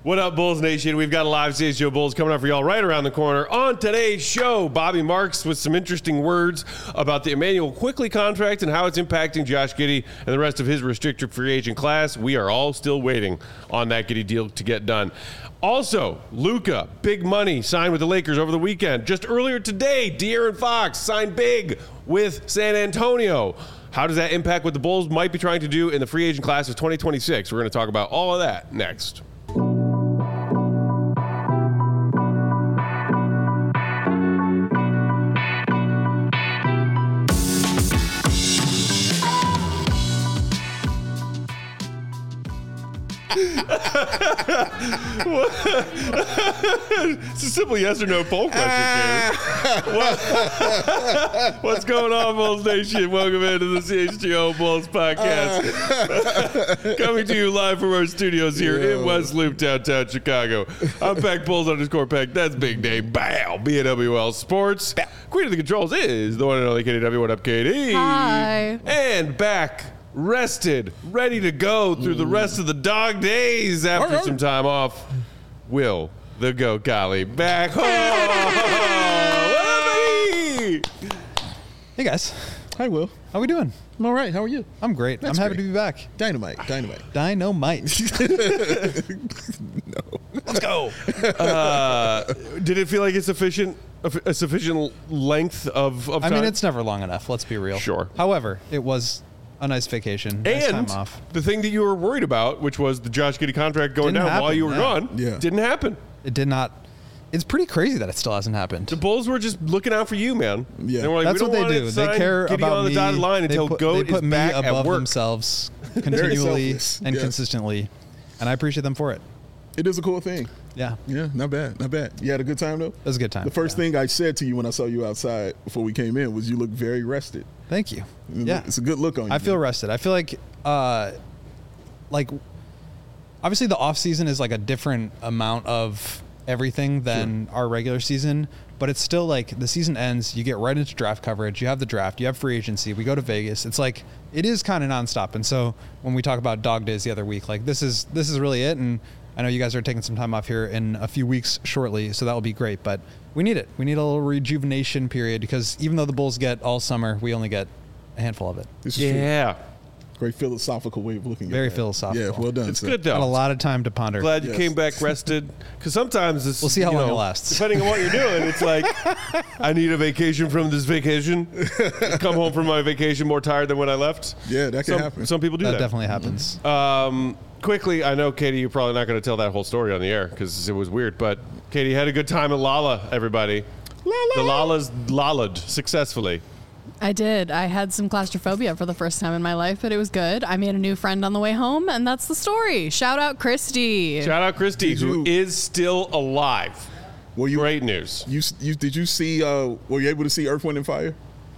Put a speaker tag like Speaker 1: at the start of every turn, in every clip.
Speaker 1: What up, Bulls Nation? We've got a live CHGO Bulls coming up for y'all right around the corner. On today's show, Bobby Marks with some interesting words about the Immanuel Quickley contract and how it's impacting Josh Giddey and the rest of his restricted free agent class. We are all still waiting on that Giddey deal to get done. Also, Luka, big money, signed with the Lakers over the weekend. Just earlier today, De'Aaron Fox signed big with San Antonio. How does that impact what the Bulls might be trying to do in the free agent class of 2026? We're going to talk about all of that next. It's a simple yes or no poll question. What's going on, Bulls Nation? Welcome into the CHGO Bulls podcast. Coming to you live from our studios here in West Loop, downtown Chicago. I'm Peck Bulls _Peck. That's Big Dave. Bow. BNWL Sports. Queen of the controls is the one and only KDW. What up, KD?
Speaker 2: Hi.
Speaker 1: And back. Rested, ready to go through the rest of the dog days after some time off. Will the Goat Golly back home?
Speaker 3: Hey guys,
Speaker 4: Hi, Will.
Speaker 3: how we doing?
Speaker 4: I'm all right. How are you?
Speaker 3: I'm great.
Speaker 4: That's
Speaker 3: I'm happy
Speaker 4: great.
Speaker 3: to be back.
Speaker 4: Dynamite.
Speaker 3: Dynamite.
Speaker 4: No.
Speaker 3: Let's go.
Speaker 1: Did it feel like it's a sufficient length of time?
Speaker 3: I mean, it's never long enough. Let's be real.
Speaker 1: Sure.
Speaker 3: However, it was a nice vacation. Nice
Speaker 1: and
Speaker 3: time off.
Speaker 1: the thing that you were worried about, which was the Josh Giddey contract going
Speaker 3: Didn't
Speaker 1: down while
Speaker 3: happen,
Speaker 1: you were
Speaker 3: yeah.
Speaker 1: gone,
Speaker 4: Yeah.
Speaker 1: didn't happen.
Speaker 3: It did not. It's pretty crazy that it still hasn't happened.
Speaker 1: The Bulls were just looking out for you, man.
Speaker 4: Yeah.
Speaker 1: They were like,
Speaker 3: That's
Speaker 1: we
Speaker 3: what
Speaker 1: don't
Speaker 3: they
Speaker 1: want
Speaker 3: do.
Speaker 1: to
Speaker 3: They
Speaker 1: sign
Speaker 3: care
Speaker 1: Giddey
Speaker 3: about
Speaker 1: on the
Speaker 3: me.
Speaker 1: dotted line until
Speaker 3: they
Speaker 1: Goat
Speaker 3: put
Speaker 1: is
Speaker 3: me
Speaker 1: back at
Speaker 3: above
Speaker 1: work.
Speaker 3: themselves continually
Speaker 4: selfless.
Speaker 3: and
Speaker 4: Yeah.
Speaker 3: consistently, and I appreciate them for it.
Speaker 4: It is a cool thing.
Speaker 3: Yeah,
Speaker 4: Yeah, not bad. Not bad. You had a good time, though?
Speaker 3: it was a good time.
Speaker 4: The first thing I said to you when I saw you outside before we came in was you look very rested.
Speaker 3: Thank you. Yeah,
Speaker 4: It's a good look on you.
Speaker 3: I feel rested. I feel like obviously the off season is like a different amount of everything than our regular season, but it's still like the season ends, you get right into draft coverage, you have the draft, you have free agency, we go to Vegas. It's like it is kind of nonstop. And so when we talk about dog days the other week, like this is really it. And I know you guys are taking some time off here in a few weeks shortly, so that will be great. But we need it. We need a little rejuvenation period because even though the Bulls get all summer, we only get a handful of it.
Speaker 4: This is true.
Speaker 1: Yeah.
Speaker 4: Great philosophical way of looking
Speaker 3: Very
Speaker 4: at it.
Speaker 3: philosophical.
Speaker 4: Yeah, well done.
Speaker 1: It's
Speaker 4: sir.
Speaker 1: good,
Speaker 3: Got a
Speaker 1: though.
Speaker 3: lot of time to ponder.
Speaker 1: Glad you
Speaker 4: Yes.
Speaker 1: came back rested. Because sometimes this,
Speaker 3: We'll see how
Speaker 1: you
Speaker 3: long
Speaker 1: know,
Speaker 3: it lasts.
Speaker 1: Depending on what you're doing, it's like, I need a vacation from this vacation. Come home from my vacation more tired than when I left.
Speaker 4: Yeah, that can happen.
Speaker 1: Some people do
Speaker 3: That
Speaker 1: that.
Speaker 3: definitely happens.
Speaker 1: Quickly, I know, Katie, you're probably not going to tell that whole story on the air because it was weird. But Katie had a good time at Lala, everybody. The Lalas lalla'd successfully.
Speaker 2: I did. I had some claustrophobia for the first time in my life, but it was good. I made a new friend on the way home, and that's the story. Shout out Christy.
Speaker 1: Shout out Christy, who is still alive.
Speaker 4: Were you,
Speaker 1: Great news.
Speaker 4: Did you see, were you able to see Earth, Wind, and Fire?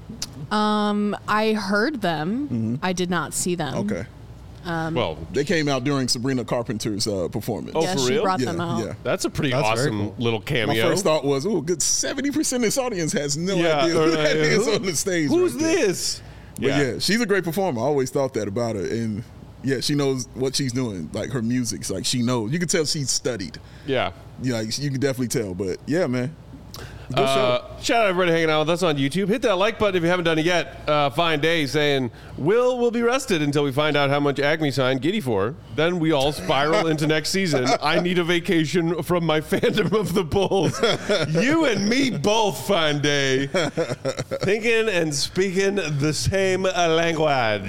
Speaker 2: I heard them. I did not see them.
Speaker 4: Okay.
Speaker 1: Well,
Speaker 4: They came out during Sabrina Carpenter's performance.
Speaker 1: Oh,
Speaker 2: Yeah,
Speaker 1: for
Speaker 2: she
Speaker 1: real?
Speaker 2: brought
Speaker 4: Yeah,
Speaker 2: them out.
Speaker 4: yeah.
Speaker 1: that's a pretty
Speaker 3: That's very
Speaker 1: awesome
Speaker 3: cool.
Speaker 1: little
Speaker 4: My
Speaker 1: cameo.
Speaker 4: first thought was, oh, good 70% of this audience has no
Speaker 1: Yeah,
Speaker 4: idea
Speaker 1: or
Speaker 4: who that
Speaker 1: like,
Speaker 4: is
Speaker 1: who-
Speaker 4: on the stage.
Speaker 1: Who's
Speaker 4: right there.
Speaker 1: this?
Speaker 4: But yeah, she's a great performer. I always thought that about her. And yeah, she knows what she's doing. Like her music's like she knows. You can tell she's studied.
Speaker 1: Yeah.
Speaker 4: Yeah, you can definitely tell. But yeah, man. Good show.
Speaker 1: Shout out everybody hanging out with us on YouTube. Hit that like button if you haven't done it yet. Fine Day saying, will be rested until we find out how much Acme signed Giddey for. Then we all spiral into next season. I need a vacation from my fandom of the Bulls. You and me both, Fine Day. Thinking and speaking the same language.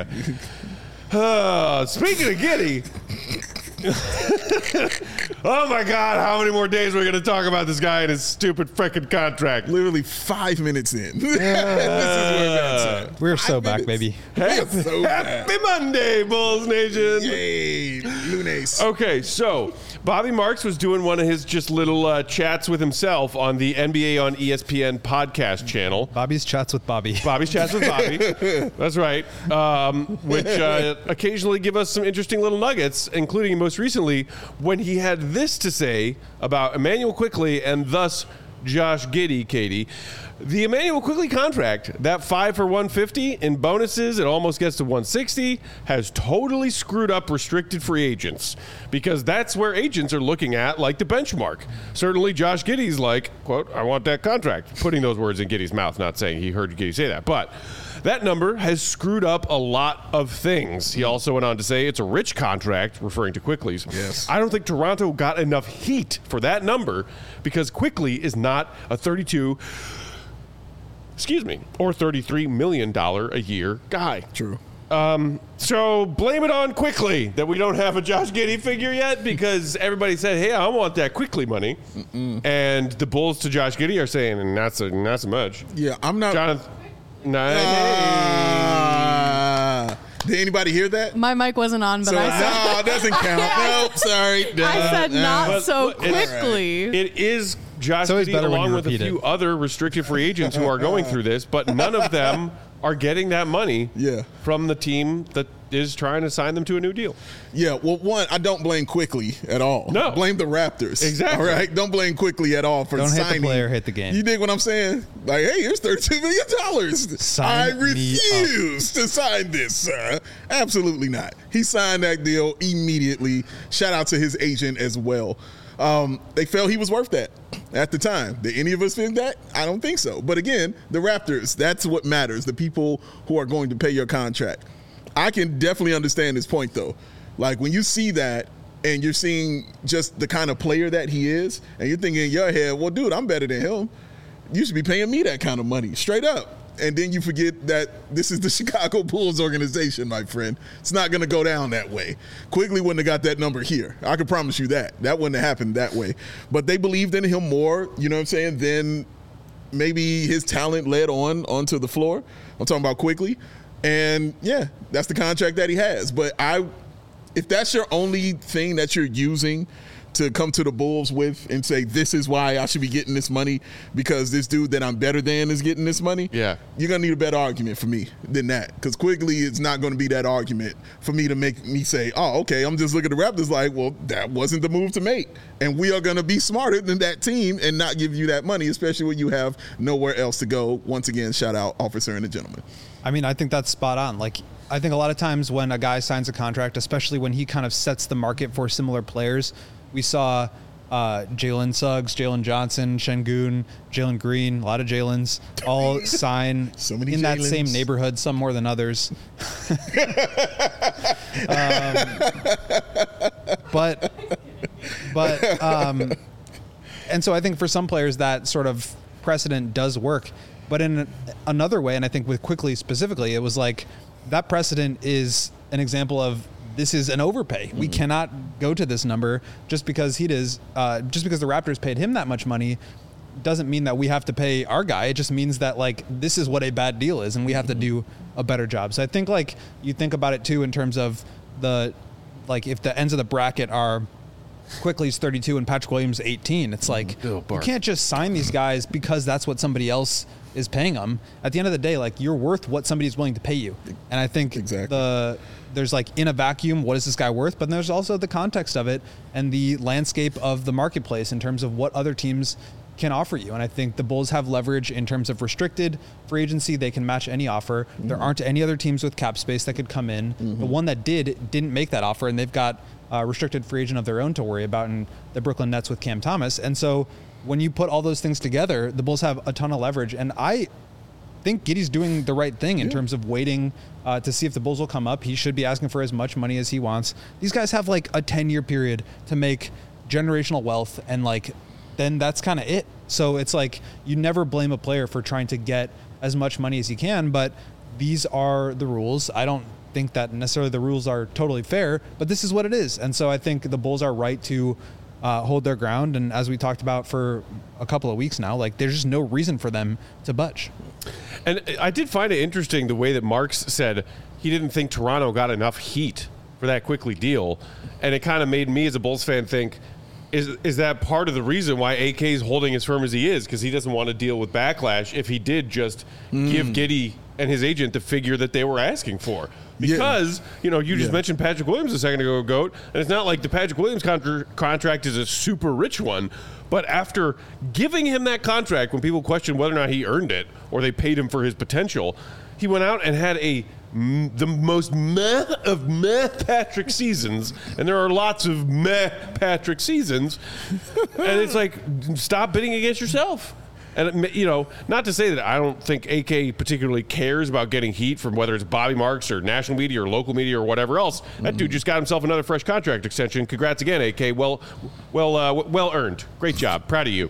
Speaker 1: Speaking of Giddey. Oh my God, how many more days we're going to talk about this guy and his stupid freaking contract?
Speaker 4: Literally 5 minutes in. This is where that's at.
Speaker 3: We're so
Speaker 4: 5
Speaker 3: back,
Speaker 4: minutes.
Speaker 3: baby.
Speaker 4: We're so back.
Speaker 1: Happy Monday, Bulls Nation.
Speaker 4: Yay, Lunes.
Speaker 1: Okay, so Bobby Marks was doing one of his just little chats with himself on the NBA on ESPN podcast channel.
Speaker 3: Bobby's chats with Bobby.
Speaker 1: Bobby's Chats with Bobby. That's right. Which occasionally give us some interesting little nuggets, including most recently when he had this to say about Immanuel Quickley and thus Josh Giddey, Katie. The Emmanuel Quickley contract, that 5 for $150 in bonuses, it almost gets to $160, has totally screwed up restricted free agents because that's where agents are looking at like the benchmark. Certainly Josh Giddey's like, quote, I want that contract. Putting those words in Giddey's mouth, not saying he heard Giddey say that. But that number has screwed up a lot of things. He also went on to say it's a rich contract, referring to Quickley's.
Speaker 4: Yes.
Speaker 1: I don't think Toronto got enough heat for that number because Quickley is not a or $33 million a year guy.
Speaker 4: True.
Speaker 1: So blame it on Quickley that we don't have a Josh Giddey figure yet because everybody said, hey, I want that Quickley money. And the Bulls to Josh Giddey are saying, not so much.
Speaker 4: Yeah, I'm not.
Speaker 1: Jonathan.
Speaker 4: Did anybody hear that?
Speaker 2: My mic wasn't on, but
Speaker 4: So,
Speaker 2: I said,
Speaker 4: no, it doesn't count. Nope, sorry.
Speaker 2: I said not
Speaker 1: But
Speaker 2: so
Speaker 1: look, it's-
Speaker 2: quickly.
Speaker 1: It is Josh
Speaker 3: It's always
Speaker 1: Giddey
Speaker 3: better when
Speaker 1: along
Speaker 3: you
Speaker 1: with a
Speaker 3: repeat
Speaker 1: few
Speaker 3: it.
Speaker 1: other restricted free agents who are going through this, but none of them are getting that money from the team that is trying to sign them to a new deal.
Speaker 4: Yeah, well, one, I don't blame Quickley at all.
Speaker 1: No.
Speaker 4: Blame the Raptors.
Speaker 1: Exactly.
Speaker 4: All right? Don't blame Quickley at all for
Speaker 3: Don't hit
Speaker 4: signing.
Speaker 3: the player, hit the game.
Speaker 4: You dig what I'm saying? Like, hey, here's $32 million.
Speaker 3: Sign
Speaker 4: I
Speaker 3: me
Speaker 4: refuse to sign this, sir. Absolutely not. He signed that deal immediately. Shout out to his agent as well. They felt he was worth that at the time. Did any of us think that? I don't think so. But again, the Raptors, that's what matters. The people who are going to pay your contract. I can definitely understand his point, though. Like, when you see that and you're seeing just the kind of player that he is, and you're thinking in your head, well, dude, I'm better than him. You should be paying me that kind of money, straight up. And then you forget that this is the Chicago Bulls organization, my friend. It's not going to go down that way. Quigley wouldn't have got that number here. I can promise you that. That wouldn't have happened that way. But they believed in him more, you know what I'm saying, than maybe his talent led onto the floor. I'm talking about Quigley. And, yeah, that's the contract that he has. But if that's your only thing that you're using to come to the Bulls with and say, this is why I should be getting this money because this dude that I'm better than is getting this money,
Speaker 1: Yeah.
Speaker 4: you're going to need a better argument for me than that. Because Quigley is not going to be that argument for me to make me say, oh, okay, I'm just looking at the Raptors like, well, that wasn't the move to make. And we are going to be smarter than that team and not give you that money, especially when you have nowhere else to go. Once again, shout out Officer and the Gentleman.
Speaker 3: I mean, I think that's spot on. Like, I think a lot of times when a guy signs a contract, especially when he kind of sets the market for similar players, we saw Jalen Suggs, Jalen Johnson, Şengün, Jalen Green, a lot of Jalen's, all sign
Speaker 4: So many
Speaker 3: in that
Speaker 4: Jalens.
Speaker 3: same neighborhood, some more than others. And so I think for some players that sort of precedent does work. But in another way, and I think with Quickley specifically, it was like that precedent is an example of this is an overpay. We cannot go to this number just because just because the Raptors paid him that much money doesn't mean that we have to pay our guy. It just means that like this is what a bad deal is and we have to do a better job. So I think like you think about it too in terms of if the ends of the bracket are Quickly's 32 and Patrick Williams 18, it's like you can't just sign these guys because that's what somebody else is paying them. At the end of the day, like you're worth what somebody's willing to pay you. And I think
Speaker 4: Exactly.
Speaker 3: there's like in a vacuum, what is this guy worth? But there's also the context of it and the landscape of the marketplace in terms of what other teams can offer you. And I think the Bulls have leverage in terms of restricted free agency. They can match any offer. There aren't any other teams with cap space that could come in. The one that didn't make that offer, and they've got a restricted free agent of their own to worry about in the Brooklyn Nets with Cam Thomas. And so when you put all those things together, the Bulls have a ton of leverage. And I think Giddey's doing the right thing in terms of waiting to see if the Bulls will come up. He should be asking for as much money as he wants. These guys have like a 10-year period to make generational wealth, and like then that's kind of it. So it's like you never blame a player for trying to get as much money as he can, but these are the rules. I don't think that necessarily the rules are totally fair, but this is what it is. And so I think the Bulls are right to hold their ground. And as we talked about for a couple of weeks now, like there's just no reason for them to budge.
Speaker 1: And I did find it interesting the way that Marks said he didn't think Toronto got enough heat for that Quickley deal. And it kind of made me as a Bulls fan think, is that part of the reason why AK is holding as firm as he is? Because he doesn't want to deal with backlash if he did just give Giddey and his agent the figure that they were asking for. Because, you just mentioned Patrick Williams a second ago, Goat, and it's not like the Patrick Williams contract is a super rich one, but after giving him that contract, when people questioned whether or not he earned it or they paid him for his potential, he went out and had the most meh of meh Patrick seasons, and there are lots of meh Patrick seasons, and it's like, stop bidding against yourself. And, not to say that I don't think AK particularly cares about getting heat from whether it's Bobby Marks or national media or local media or whatever else. That dude just got himself another fresh contract extension. Congrats again, AK. Well earned. Great job. Proud of you.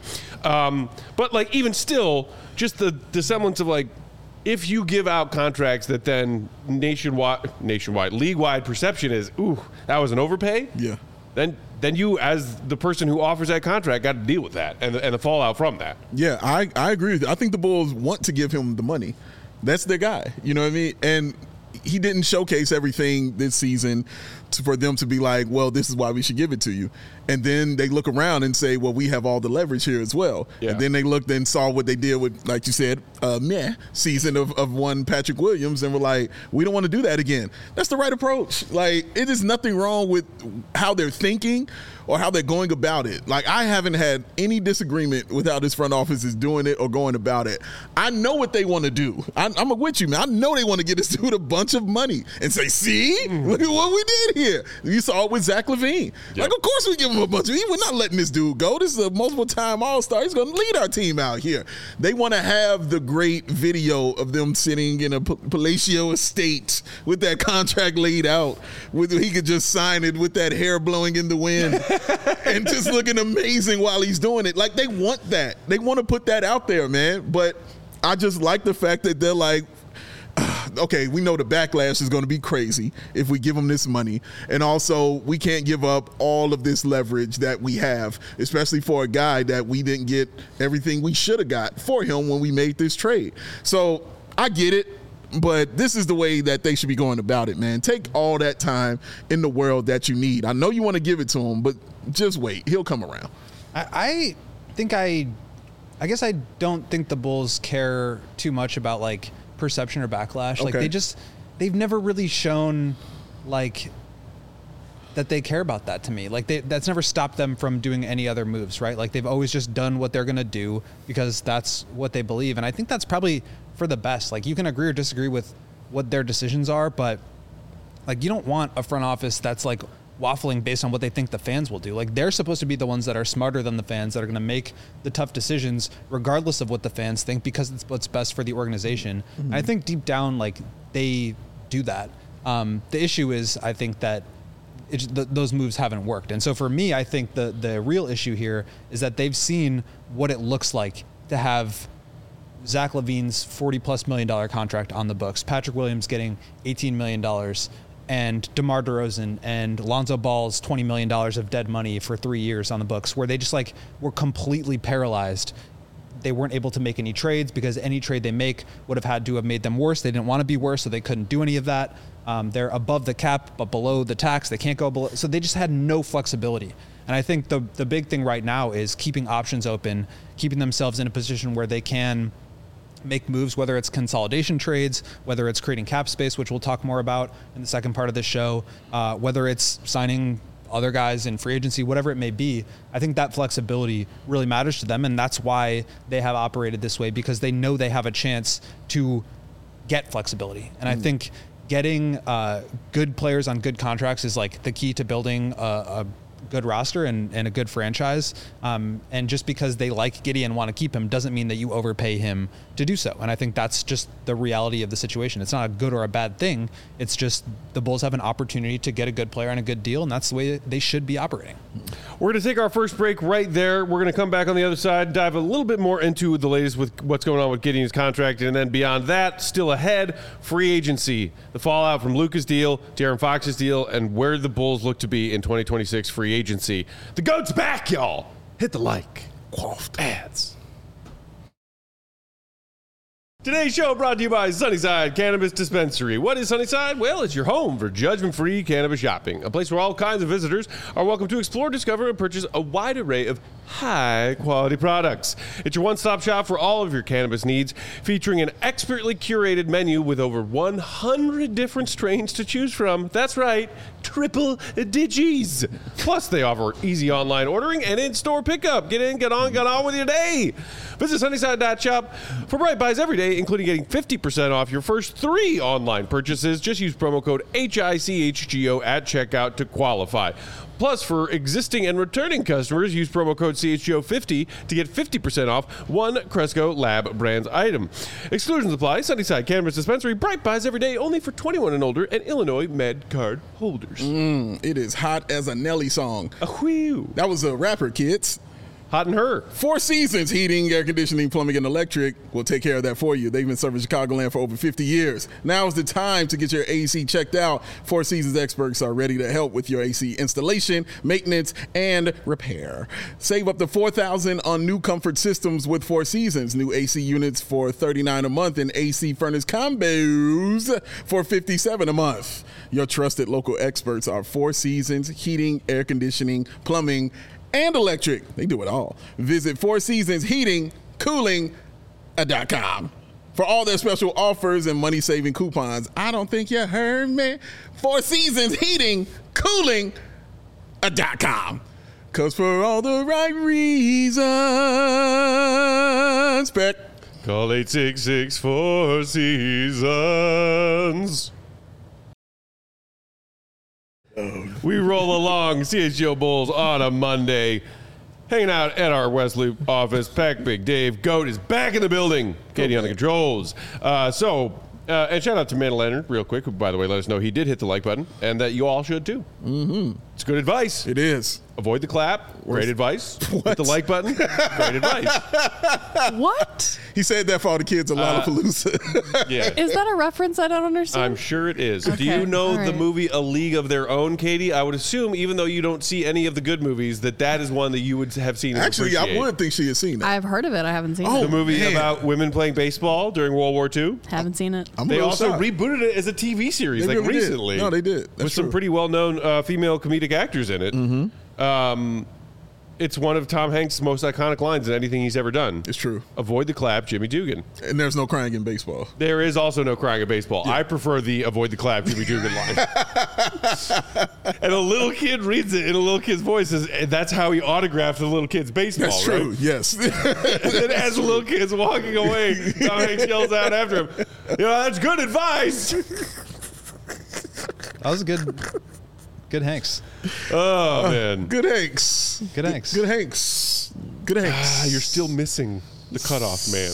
Speaker 1: But, even still, just the semblance of, if you give out contracts that then nationwide, league-wide perception is, ooh, that was an overpay?
Speaker 4: Yeah.
Speaker 1: Then you, as the person who offers that contract, got to deal with that and the fallout from that.
Speaker 4: Yeah, I agree with you. I think the Bulls want to give him the money. That's their guy. You know what I mean? And he didn't showcase everything this season for them to be like, well, this is why we should give it to you. And then they look around and say, well, we have all the leverage here as well. Yeah. And then they looked and saw what they did with, like you said, season of one Patrick Williams, and were like, we don't want to do that again. That's the right approach. It is nothing wrong with how they're thinking or how they're going about it. I haven't had any disagreement with how this front office is doing it or going about it. I know what they want to do. I'm with you, man. I know they want to get this dude a bunch of money and say, see, look at what we did here. You saw it with Zach LaVine. Yep. Of course we give him a bunch of, we're not letting this dude go. This is a multiple-time All-Star. He's going to lead our team out here. They want to have the great video of them sitting in a palatial estate with that contract laid out. He could just sign it with that hair blowing in the wind and just looking amazing while he's doing it. They want that. They want to put that out there, man. But I just like the fact that they're like, okay, we know the backlash is going to be crazy if we give him this money. And also, we can't give up all of this leverage that we have, especially for a guy that we didn't get everything we should have got for him when we made this trade. So I get it, but this is the way that they should be going about it, man. Take all that time in the world that you need. I know you want to give it to him, but just wait. He'll come around.
Speaker 3: I guess I don't think the Bulls care too much about perception or backlash.
Speaker 4: Okay.
Speaker 3: They've never really shown that they care about that to me. That's never stopped them from doing any other moves, right? They've always just done what they're going to do because that's what they believe. And I think that's probably for the best. You can agree or disagree with what their decisions are, but you don't want a front office that's waffling based on what they think the fans will do. They're supposed to be the ones that are smarter than the fans, that are going to make the tough decisions regardless of what the fans think, because it's what's best for the organization. Mm-hmm. And I think deep down, they do that. The issue is, I think that those moves haven't worked. And so for me, I think the real issue here is that they've seen what it looks like to have Zach LaVine's $40+ million contract on the books, Patrick Williams getting $18 million, and DeMar DeRozan and Lonzo Ball's $20 million of dead money for 3 years on the books, where they just were completely paralyzed. They weren't able to make any trades because any trade they make would have had to have made them worse. They didn't want to be worse, so they couldn't do any of that. They're above the cap, but below the tax. They can't go below. So they just had no flexibility. And I think the big thing right now is keeping options open, keeping themselves in a position where they can make moves, whether it's consolidation trades, whether it's creating cap space, which we'll talk more about in the second part of this show, whether it's signing other guys in free agency, whatever it may be. I think that flexibility really matters to them, and that's why they have operated this way, because they know they have a chance to get flexibility. And I think getting good players on good contracts is the key to building a good roster and a good franchise. And just because they like Giddey and want to keep him doesn't mean that you overpay him to do so. And I think that's just the reality of the situation. It's not a good or a bad thing. It's just the Bulls have an opportunity to get a good player on a good deal, and that's the way they should be operating.
Speaker 1: We're going to take our first break right there. We're going to come back on the other side, dive a little bit more into the latest with what's going on with Giddey's contract, and then beyond that, still ahead, free agency, the fallout from Luka's deal, De'Aaron Fox's deal, and where the Bulls look to be in 2026 free agency. The GOAT's back, y'all. Hit the like. Quaffed ads. Today's show brought to you by Sunnyside Cannabis Dispensary. What is Sunnyside? Well, it's your home for judgment-free cannabis shopping. A place where all kinds of visitors are welcome to explore, discover, and purchase a wide array of high-quality products. It's your one-stop shop for all of your cannabis needs, featuring an expertly curated menu with over 100 different strains to choose from. That's right, triple digis. Plus, they offer easy online ordering and in-store pickup. Get in, get on with your day. Visit Sunnyside.shop for Bright Buys every day, including getting 50% off your first 3 online purchases. Just use promo code HICHGO at checkout to qualify. Plus, for existing and returning customers, use promo code CHGO50 to get 50% off one Cresco Lab Brands item. Exclusions apply. Sunnyside Cannabis Dispensary, Bright Buys every day, only for 21 and older and Illinois Med Card holders.
Speaker 4: It is hot as a Nelly song.
Speaker 1: Whew.
Speaker 4: That was a rapper, kids.
Speaker 1: Hot in her.
Speaker 4: Four Seasons Heating, Air Conditioning, Plumbing, and Electric will take care of that for you. They've been serving Chicagoland for over 50 years. Now is the time to get your AC checked out. Four Seasons experts are ready to help with your AC installation, maintenance, and repair. Save up to $4,000 on new comfort systems with Four Seasons. New AC units for $39 a month and AC furnace combos for $57 a month. Your trusted local experts are Four Seasons Heating, Air Conditioning, Plumbing, and Electric. They do it all. Visit Four Seasons Heating, Cooling.com for all their special offers and money-saving coupons. I don't think you heard me. Four Seasons Heating, Cooling.com. Because for all the right reasons. Peck.
Speaker 1: Call 866 Four Seasons. We roll along, CHGO Bulls on a Monday, hanging out at our West Loop office. Peck, Big Dave, Goat is back in the building. Katie on the controls. And shout out to Amanda Leonard, real quick, who, by the way, let us know he did hit the like button, and that you all should too. Mm-hmm. It's good advice.
Speaker 4: It is.
Speaker 1: Avoid the clap. Great advice. Hit the like button. Great advice.
Speaker 2: What?
Speaker 4: He said that for all the kids at Lollapalooza.
Speaker 1: Yeah.
Speaker 2: Is that a reference I don't understand?
Speaker 1: I'm sure it is.
Speaker 2: Okay,
Speaker 1: Do you know
Speaker 2: all
Speaker 1: the
Speaker 2: right.
Speaker 1: movie A League of Their Own, Katie? I would assume, even though you don't see any of the good movies, that is one that you would have seen. And
Speaker 4: Actually, I
Speaker 1: appreciate.
Speaker 4: would think she has seen that.
Speaker 2: I've heard of it. I haven't seen
Speaker 4: Oh,
Speaker 2: it.
Speaker 1: The movie
Speaker 4: man.
Speaker 1: about women playing baseball during World War II.
Speaker 2: Haven't seen it.
Speaker 4: I'm a
Speaker 1: They
Speaker 4: little
Speaker 1: also
Speaker 4: shocked.
Speaker 1: rebooted it as a TV series,
Speaker 4: They
Speaker 1: like
Speaker 4: really did.
Speaker 1: recently.
Speaker 4: No, they did. That's
Speaker 1: with some
Speaker 4: true.
Speaker 1: pretty well-known female comedic actors in it. Mm-hmm. It's one of Tom Hanks' most iconic lines in anything he's ever done.
Speaker 4: It's true.
Speaker 1: Avoid the clap, Jimmy Dugan.
Speaker 4: And there's no crying in baseball.
Speaker 1: There is also no crying in baseball. I prefer the avoid the clap, Jimmy Dugan line. And a little kid reads it in a little kid's voice. And that's how he autographed the little kid's baseball,
Speaker 4: That's true.
Speaker 1: right?
Speaker 4: Yes.
Speaker 1: And then as the little kid's walking away, Tom Hanks yells out after him, that's good advice.
Speaker 3: That was good Hanks.
Speaker 1: Oh, man.
Speaker 4: Good Hanks.
Speaker 3: Good Hanks.
Speaker 4: Good Hanks. Good Hanks.
Speaker 1: You're still missing the cutoff, man.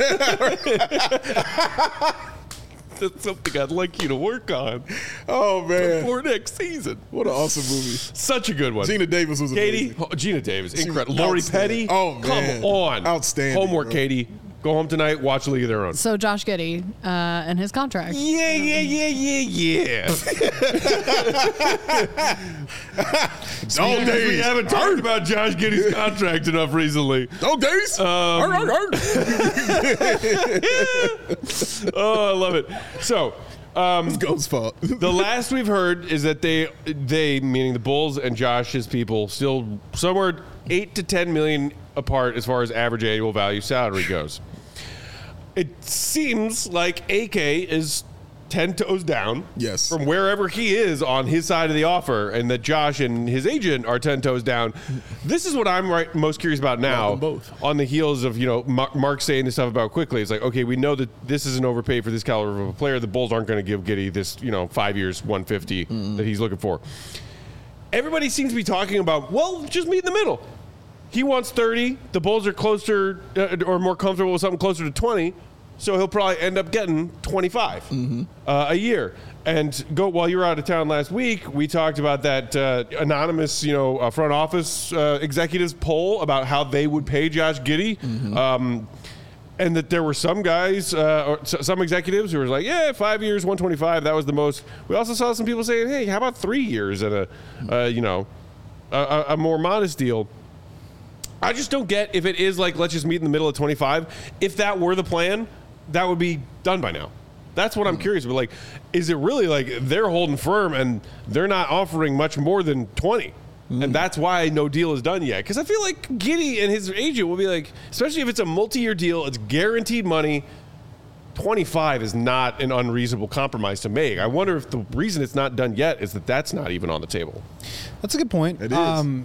Speaker 1: That's something I'd like you to work on
Speaker 4: Oh, man.
Speaker 1: for next season.
Speaker 4: What an awesome movie.
Speaker 1: Such a good one.
Speaker 4: Gina Davis was amazing.
Speaker 1: Katie, Gina Davis,
Speaker 4: was
Speaker 1: incredible. Lori
Speaker 4: outstanding.
Speaker 1: Petty,
Speaker 4: Oh, man.
Speaker 1: come on.
Speaker 4: Outstanding,
Speaker 1: Homework,
Speaker 4: bro.
Speaker 1: Katie. Go home tonight, watch League of Their Own.
Speaker 2: So Josh Giddey and his contract.
Speaker 1: Yeah.
Speaker 4: Dog
Speaker 1: We
Speaker 4: days.
Speaker 1: haven't talked about Josh Giddey's contract enough recently.
Speaker 4: Dog days. Arr, arr, arr.
Speaker 1: Oh, I love it. So,
Speaker 4: It's Goat's fault.
Speaker 1: the last we've heard is that they, meaning the Bulls and Josh's people, still somewhere 8 to 10 million apart as far as average annual value salary goes. It seems like AK is 10 toes down
Speaker 4: Yes.
Speaker 1: from wherever he is on his side of the offer, and that Josh and his agent are 10 toes down. This is what I'm most curious about now.
Speaker 4: Welcome both.
Speaker 1: On the heels of Mark saying this stuff about quickly, it's like, okay, we know that this is an overpay for this caliber of a player. The Bulls aren't going to give Giddey this 5 years, 150 that he's looking for. Everybody seems to be talking about, well, just meet in the middle. He wants 30. The Bulls are closer or more comfortable with something closer to 20. So he'll probably end up getting 25 a year. And while you were out of town last week, we talked about that anonymous, front office executives poll about how they would pay Josh Giddey. And that there were some guys or some executives who were like, yeah, 5 years, 125, that was the most. We also saw some people saying, hey, how about 3 years and a more modest deal. I just don't get if it is like, let's just meet in the middle of 25. If that were the plan, that would be done by now. That's what I'm curious about. Like, is it really like they're holding firm and they're not offering much more than 20? And that's why no deal is done yet. Because I feel like Giddey and his agent will be like, especially if it's a multi-year deal, it's guaranteed money. 25 is not an unreasonable compromise to make. I wonder if the reason it's not done yet is that that's not even on the table.
Speaker 3: That's a good point.
Speaker 4: It is.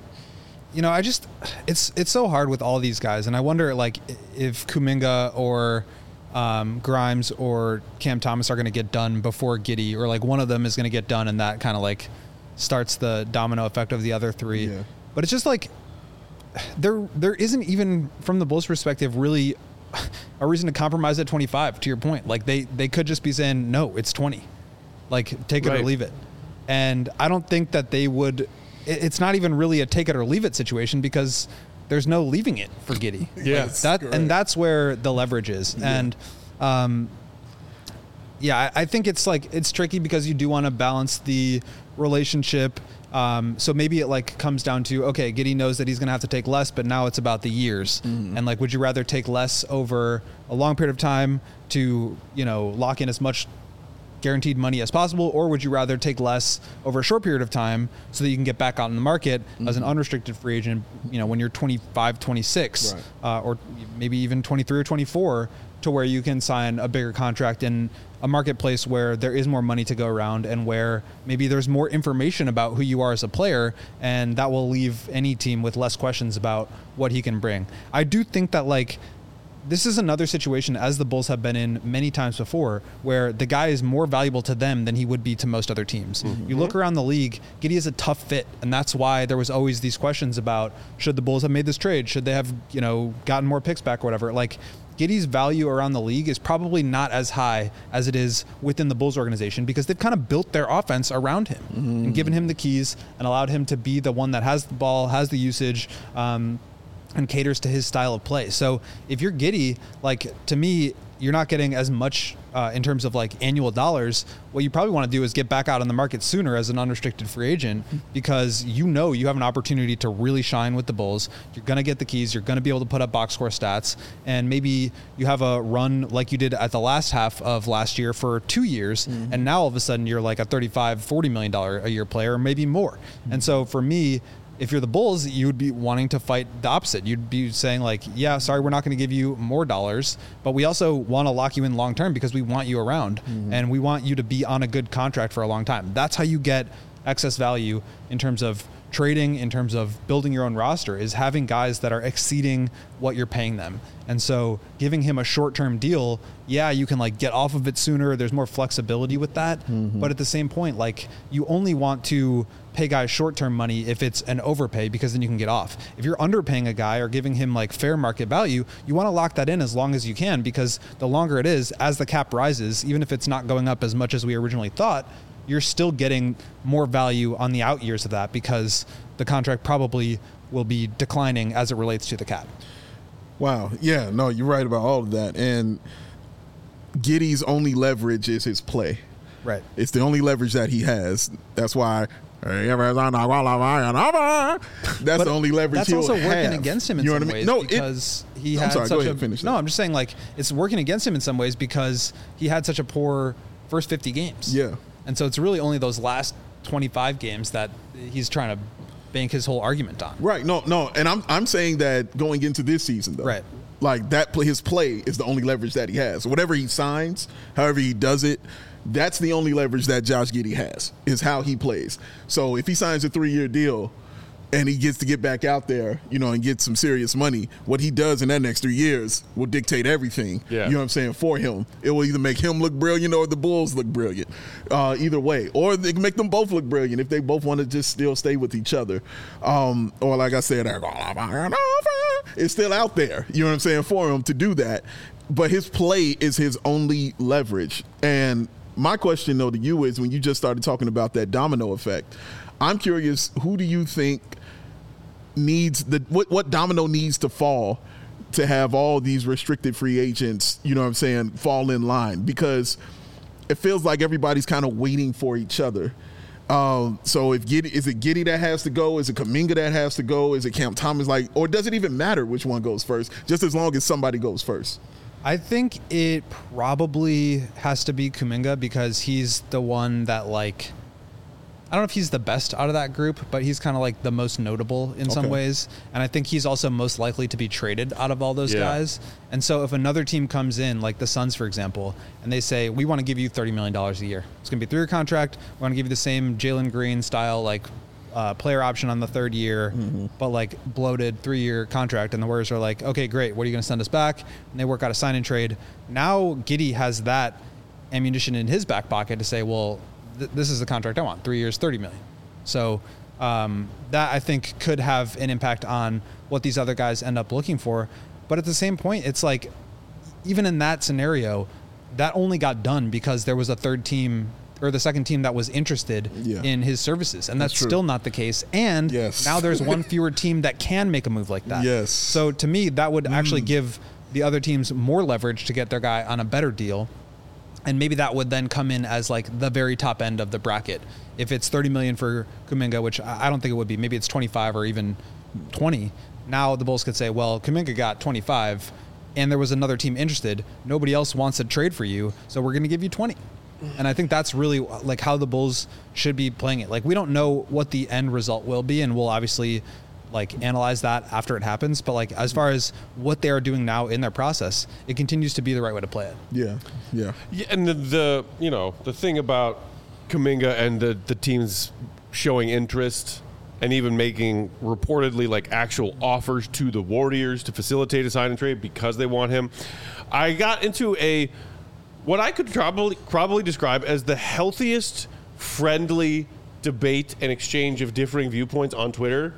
Speaker 3: It's so hard with all these guys, and I wonder like if Kuminga or Grimes or Cam Thomas are going to get done before Giddey, or like one of them is going to get done, and that kind of like starts the domino effect of the other three.
Speaker 4: Yeah.
Speaker 3: But it's just like there isn't even from the Bulls' perspective really a reason to compromise at 25. To your point, like they could just be saying no, it's 20, like take it or leave it. And I don't think that they would. It's not even really a take it or leave it situation because there's no leaving it for Giddey.
Speaker 1: Yeah,
Speaker 3: and that's where the leverage is. Yeah. And I think it's like it's tricky because you do want to balance the relationship. So maybe it like comes down to, okay, Giddey knows that he's going to have to take less, but now it's about the years. And like, would you rather take less over a long period of time to, lock in as much guaranteed money as possible, or would you rather take less over a short period of time so that you can get back out in the market as an unrestricted free agent, when you're 25, 26, or maybe even 23 or 24, to where you can sign a bigger contract in a marketplace where there is more money to go around and where maybe there's more information about who you are as a player, and that will leave any team with less questions about what he can bring. I do think that like this is another situation, as the Bulls have been in many times before, where the guy is more valuable to them than he would be to most other teams. You look around the league, Giddey is a tough fit, and that's why there was always these questions about should the Bulls have made this trade? Should they have, gotten more picks back or whatever? Like, Giddey's value around the league is probably not as high as it is within the Bulls organization because they've kind of built their offense around him and given him the keys and allowed him to be the one that has the ball, has the usage, and caters to his style of play. So if you're Giddey, like, to me, you're not getting as much in terms of like annual dollars. What you probably want to do is get back out on the market sooner as an unrestricted free agent because you have an opportunity to really shine with the Bulls. You're going to get the keys. You're going to be able to put up box score stats, and maybe you have a run like you did at the last half of last year for 2 years, and now all of a sudden you're like a $35-40 million a year player, or maybe more. And so for me, if you're the Bulls, you would be wanting to fight the opposite. You'd be saying like, yeah, sorry, we're not going to give you more dollars, but we also want to lock you in long term because we want you around and we want you to be on a good contract for a long time. That's how you get excess value in terms of trading, in terms of building your own roster, is having guys that are exceeding what you're paying them. And so giving him a short-term deal, yeah, you can like get off of it sooner. There's more flexibility with that. But at the same point, like, you only want to pay guys short-term money if it's an overpay, because then you can get off. If you're underpaying a guy or giving him like fair market value, you want to lock that in as long as you can, because the longer it is, as the cap rises, even if it's not going up as much as we originally thought, you're still getting more value on the out years of that because the contract probably will be declining as it relates to the cap.
Speaker 4: Wow. Yeah, no, you're right about all of that. And Giddey's only leverage is his play.
Speaker 3: Right.
Speaker 4: It's the only leverage that he has. That's why that's the only leverage
Speaker 3: that's
Speaker 4: he'll
Speaker 3: also
Speaker 4: have.
Speaker 3: working against him in some ways because he had
Speaker 4: sorry,
Speaker 3: such
Speaker 4: go ahead, finish that.
Speaker 3: No, I'm just saying, like, it's working against him in some ways because he had such a poor first 50 games.
Speaker 4: Yeah.
Speaker 3: And so it's really only those last 25 games that he's trying to bank his whole argument on.
Speaker 4: Right. No. And I'm saying that going into this season, though.
Speaker 3: Right.
Speaker 4: Like, his play is the only leverage that he has. Whatever he signs, however he does it, that's the only leverage that Josh Giddey has, is how he plays. So if he signs a 3-year deal and he gets to get back out there, and get some serious money, what he does in that next 3 years will dictate everything,
Speaker 1: Yeah.
Speaker 4: You know what I'm saying, for him. It will either make him look brilliant or the Bulls look brilliant, either way. Or they can make them both look brilliant if they both want to just still stay with each other. Or like I said, it's still out there, you know what I'm saying, for him to do that. But his play is his only leverage. And my question, though, to you is, when you just started talking about that domino effect, I'm curious, who do you think needs what domino needs to fall to have all these restricted free agents, you know what I'm saying, fall in line? Because it feels like everybody's kind of waiting for each other. So is it Giddey that has to go? Is it Kuminga that has to go? Is it Cam Thomas? Or does it even matter which one goes first, just as long as somebody goes first?
Speaker 3: I think it probably has to be Kuminga because he's the one that, like, I don't know if he's the best out of that group, but he's kind of like the most notable in some ways. And I think he's also most likely to be traded out of all those guys. And so if another team comes in, like the Suns, for example, and they say, we want to give you $30 million a year. It's going to be a 3-year contract. We want to give you the same Jalen Green style, like, player option on the 3rd year, but like bloated 3-year contract. And the Warriors are like, okay, great. What are you going to send us back? And they work out a sign and trade. Now Giddey has that ammunition in his back pocket to say, well, this is the contract I want. 3 years, $30 million. So that I think could have an impact on what these other guys end up looking for. But at the same point, it's like, even in that scenario, that only got done because there was a third team or the second team that was interested in his services. And that's still not the case. And now there's one fewer team that can make a move like that. So to me, that would actually give the other teams more leverage to get their guy on a better deal. And maybe that would then come in as like the very top end of the bracket. If it's $30 million for Kuminga, which I don't think it would be, maybe it's 25 or even 20. Now the Bulls could say, well, Kuminga got 25 and there was another team interested. Nobody else wants to trade for you, so we're going to give you 20. And I think that's really like how the Bulls should be playing it. Like, we don't know what the end result will be, and we'll obviously like analyze that after it happens. But like, as far as what they are doing now in their process, it continues to be the right way to play it.
Speaker 1: Yeah. And the you know, the thing about Kuminga and the teams showing interest and even making reportedly like actual offers to the Warriors to facilitate a sign and trade because they want him. I got into what I could probably describe as the healthiest, friendly debate and exchange of differing viewpoints on Twitter.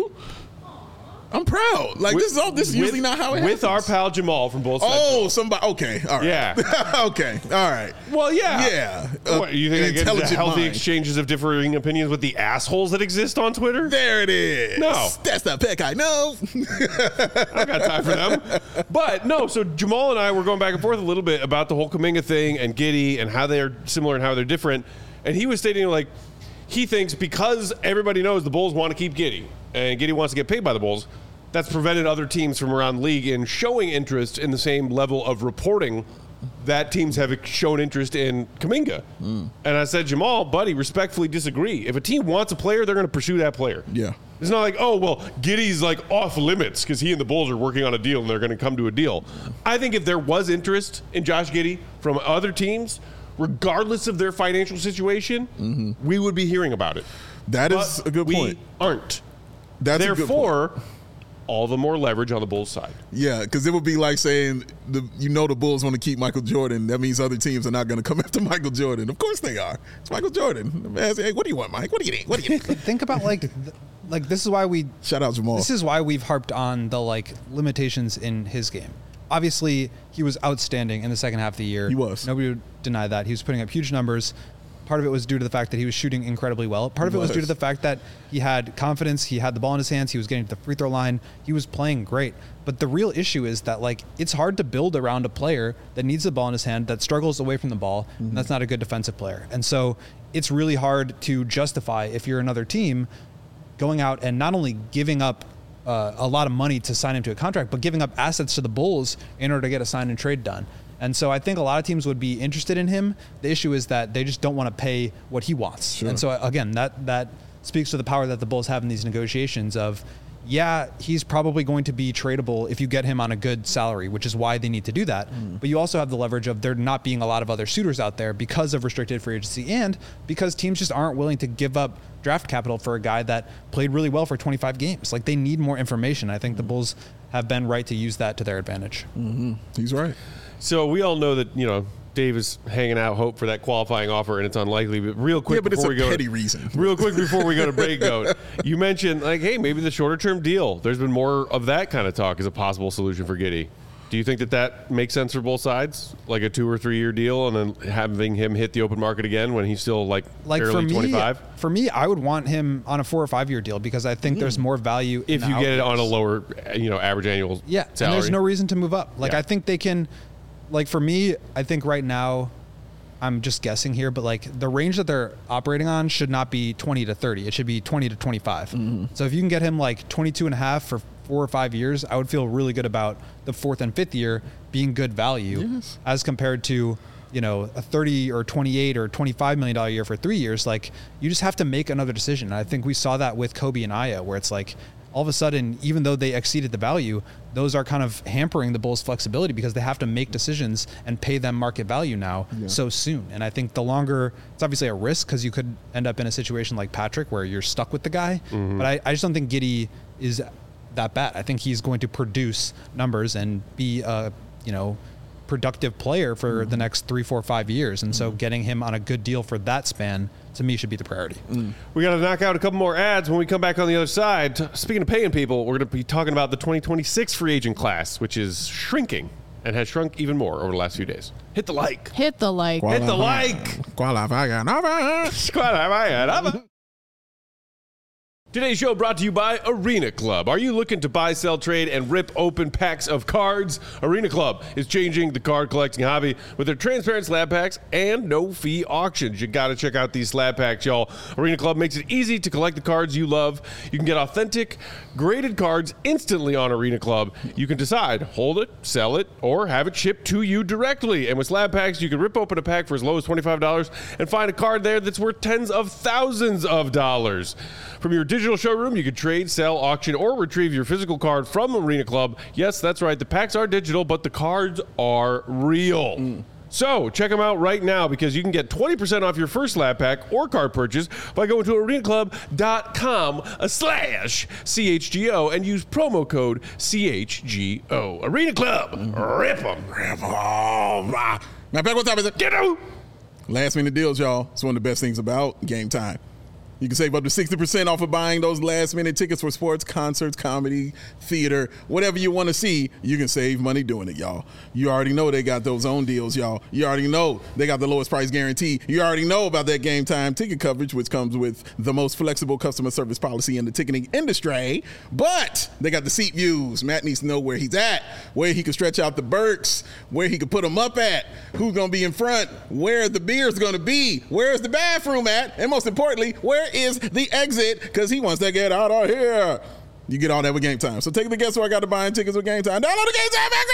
Speaker 4: I'm proud. Like, this is usually not how it happens.
Speaker 1: With our pal Jamal from Bulls Central.
Speaker 4: Oh, somebody. Okay. All right.
Speaker 1: Yeah.
Speaker 4: Okay. All right.
Speaker 1: Well, yeah.
Speaker 4: Yeah.
Speaker 1: What, you think I get into healthy exchanges of differing opinions with the assholes that exist on Twitter?
Speaker 4: There it is.
Speaker 1: No.
Speaker 4: That's the pick I know.
Speaker 1: I got time for them. But no, so Jamal and I were going back and forth a little bit about the whole Kuminga thing and Giddey and how they're similar and how they're different. And he was stating, like, he thinks because everybody knows the Bulls want to keep Giddey and Giddey wants to get paid by the Bulls, that's prevented other teams from around the league in showing interest in the same level of reporting that teams have shown interest in Kuminga. And I said, Jamal, buddy, respectfully disagree. If a team wants a player, they're going to pursue that player.
Speaker 4: Yeah.
Speaker 1: It's not like, oh, well, Giddey's like off limits because he and the Bulls are working on a deal and they're going to come to a deal. I think if there was interest in Josh Giddey from other teams, regardless of their financial situation, we would be hearing about it.
Speaker 4: That is a good point.
Speaker 1: We aren't.
Speaker 4: That's a good point.
Speaker 1: Therefore, all the more leverage on the Bulls side.
Speaker 4: Yeah, because it would be like saying, the Bulls want to keep Michael Jordan. That means other teams are not going to come after Michael Jordan. Of course they are. It's Michael Jordan. The man says, hey, what do you want, Mike? What do you need? What do you need?
Speaker 3: Think about like this is why we
Speaker 4: shout out Jamal.
Speaker 3: This is why we've harped on the like limitations in his game. Obviously, he was outstanding in the second half of the year.
Speaker 4: He was.
Speaker 3: Nobody would deny that. He was putting up huge numbers. Part of it was due to the fact that he was shooting incredibly well. Part of it was due to the fact that he had confidence. He had the ball in his hands. He was getting to the free throw line. He was playing great. But the real issue is that like it's hard to build around a player that needs the ball in his hand, that struggles away from the ball, and that's not a good defensive player. And so it's really hard to justify, if you're another team, going out and not only giving up a lot of money to sign him to a contract, but giving up assets to the Bulls in order to get a sign and trade done. And so I think a lot of teams would be interested in him. The issue is that they just don't want to pay what he wants. Sure. And so again, that speaks to the power that the Bulls have in these negotiations of, yeah, he's probably going to be tradable if you get him on a good salary, which is why they need to do that. But you also have the leverage of there not being a lot of other suitors out there because of restricted free agency and because teams just aren't willing to give up draft capital for a guy that played really well for 25 games. Like, they need more information. I think the Bulls have been right to use that to their advantage.
Speaker 4: He's right.
Speaker 1: So we all know that, Dave is hanging out hope for that qualifying offer, and it's unlikely. But real quick,
Speaker 4: but it's a petty reason.
Speaker 1: Real quick before we go to break, though, you mentioned like, hey, maybe the shorter term deal. There's been more of that kind of talk as a possible solution for Giddey. Do you think that makes sense for both sides, like a 2 or 3 year deal, and then having him hit the open market again when he's still like barely 25?
Speaker 3: For me, I would want him on a 4 or 5 year deal because I think there's more value
Speaker 1: if you get it on a lower, average annual salary.
Speaker 3: And there's no reason to move up. Like, I think they can. Like, for me, I think right now, I'm just guessing here, but like the range that they're operating on should not be 20 to 30. It should be 20 to 25. So if you can get him like 22 and a half for 4 or 5 years, I would feel really good about the 4th and 5th year being good value as compared to, you know, a 30 or 28 or $25 million year for 3 years. Like, you just have to make another decision. And I think we saw that with Kobe and Aya, where it's like, all of a sudden, even though they exceeded the value, those are kind of hampering the Bulls' flexibility because they have to make decisions and pay them market value now so soon. And I think the longer, it's obviously a risk because you could end up in a situation like Patrick where you're stuck with the guy. But I just don't think Giddey is that bad. I think he's going to produce numbers and be a, you know, productive player for the next 3, 4, 5 years. And so getting him on a good deal for that span, to me, should be the priority.
Speaker 1: We got to knock out a couple more ads when we come back on the other side. Speaking of paying people, we're going to be talking about the 2026 free agent class, which is shrinking and has shrunk even more over the last few days. Hit the like.
Speaker 2: Hit the like.
Speaker 1: Hit the like. Today's show brought to you by Arena Club. Are you looking to buy, sell, trade, and rip open packs of cards? Arena Club is changing the card collecting hobby with their transparent slab packs and no-fee auctions. You got to check out these slab packs, y'all. Arena Club makes it easy to collect the cards you love. You can get authentic, graded cards instantly on Arena Club. You can decide, hold it, sell it, or have it shipped to you directly. And with slab packs, you can rip open a pack for as low as $25 and find a card there that's worth tens of thousands of dollars. From your digital showroom, you can trade, sell, auction, or retrieve your physical card from Arena Club. Yes, that's right. The packs are digital, but the cards are real. So check them out right now because you can get 20% off your first slab pack or card purchase by going to arenaclub.com/CHGO and use promo code CHGO. Arena Club, rip them.
Speaker 4: Now, back what time is it?
Speaker 1: Get out.
Speaker 4: Last minute deals, y'all. It's one of the best things about Game Time. You can save up to 60% off of buying those last-minute tickets for sports, concerts, comedy, theater, whatever you want to see. You can save money doing it, y'all. You already know they got those own deals, y'all. You already know they got the lowest price guarantee. You already know about that Game Time ticket coverage, which comes with the most flexible customer service policy in the ticketing industry. But they got the seat views. Matt needs to know where he's at, where he can stretch out the Burks, where he can put them up at, who's going to be in front, where the beer's going to be, where's the bathroom at, and most importantly, where is the exit, because he wants to get out of here. You get all that with Game Time. So take the guess who I got to buying tickets with Game Time. Download the Game Time app.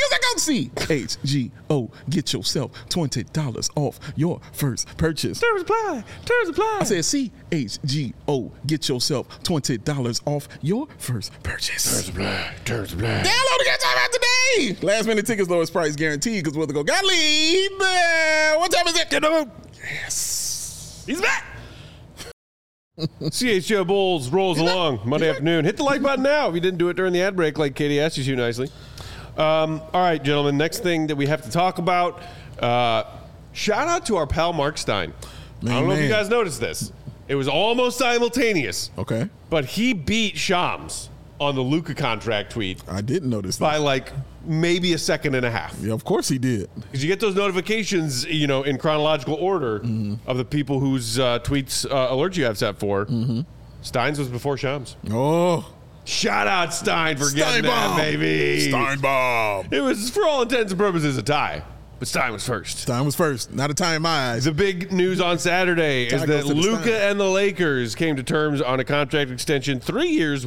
Speaker 4: CHGO. Get yourself $20 off your first purchase.
Speaker 1: Terms apply.
Speaker 4: I said CHGO. Get yourself $20 off your first purchase.
Speaker 1: Terms apply.
Speaker 4: Download the Game Time app today. Last minute tickets, lowest price guaranteed, because we're going to go. Gottlieb. What time is it? Yes.
Speaker 1: He's back. CHGO Bulls rolls along Monday afternoon. Hit the like button now if you didn't do it during the ad break like Katie asked you to nicely. All right, gentlemen, next thing that we have to talk about, shout out to our pal Mark Stein. I don't know if you guys noticed this. It was almost simultaneous.
Speaker 4: Okay.
Speaker 1: But he beat Shams on the Luka contract tweet.
Speaker 4: I didn't notice that.
Speaker 1: By like maybe a second and a half.
Speaker 4: Yeah, of course he did.
Speaker 1: Because you get those notifications, you know, in chronological order of the people whose tweets alerts you have set for. Stein's was before Shams.
Speaker 4: Oh.
Speaker 1: Shout out Stein for getting that, baby.
Speaker 4: Steinbaum.
Speaker 1: It was, for all intents and purposes, a tie. But Stein was first.
Speaker 4: Stein was first. Not a tie in my eyes.
Speaker 1: The big news on Saturday is that Luka and the Lakers came to terms on a contract extension, 3 years,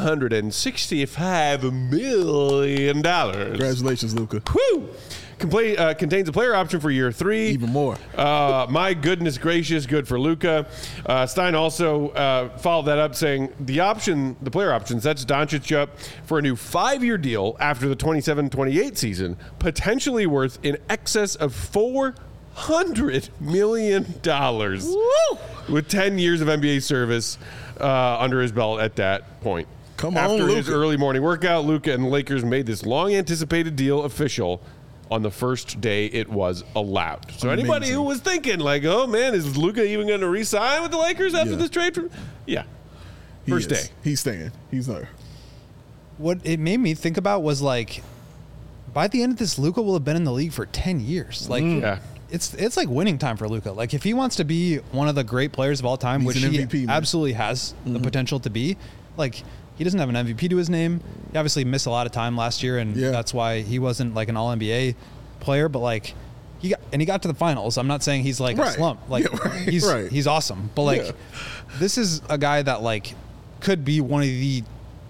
Speaker 1: $165 million.
Speaker 4: Congratulations, Luka.
Speaker 1: Woo! Contains a player option for year 3.
Speaker 4: Even more.
Speaker 1: My goodness gracious, good for Luka. Stein also followed that up saying the player option sets Doncic up for a new 5-year deal after the 27-28 season, potentially worth in excess of $400 million. Woo! With 10 years of NBA service under his belt at that point.
Speaker 4: Come on,
Speaker 1: After
Speaker 4: Luka.
Speaker 1: his early morning workout, Luka and the Lakers made this long-anticipated deal official on the first day it was allowed. So anybody who was thinking like, oh man, is Luka even going to re-sign with the Lakers after this trade? First day.
Speaker 4: He's staying. He's there.
Speaker 3: What it made me think about was like, by the end of this, Luka will have been in the league for 10 years. Like, it's like winning time for Luka. Like, if he wants to be one of the great players of all time, which he MVP, absolutely has the potential to be, like, he doesn't have an MVP to his name. He obviously missed a lot of time last year, and that's why he wasn't like an All-NBA player. But like, he got to the finals. I'm not saying he's like a slump. Like, he's awesome. But like, this is a guy that like could be one of the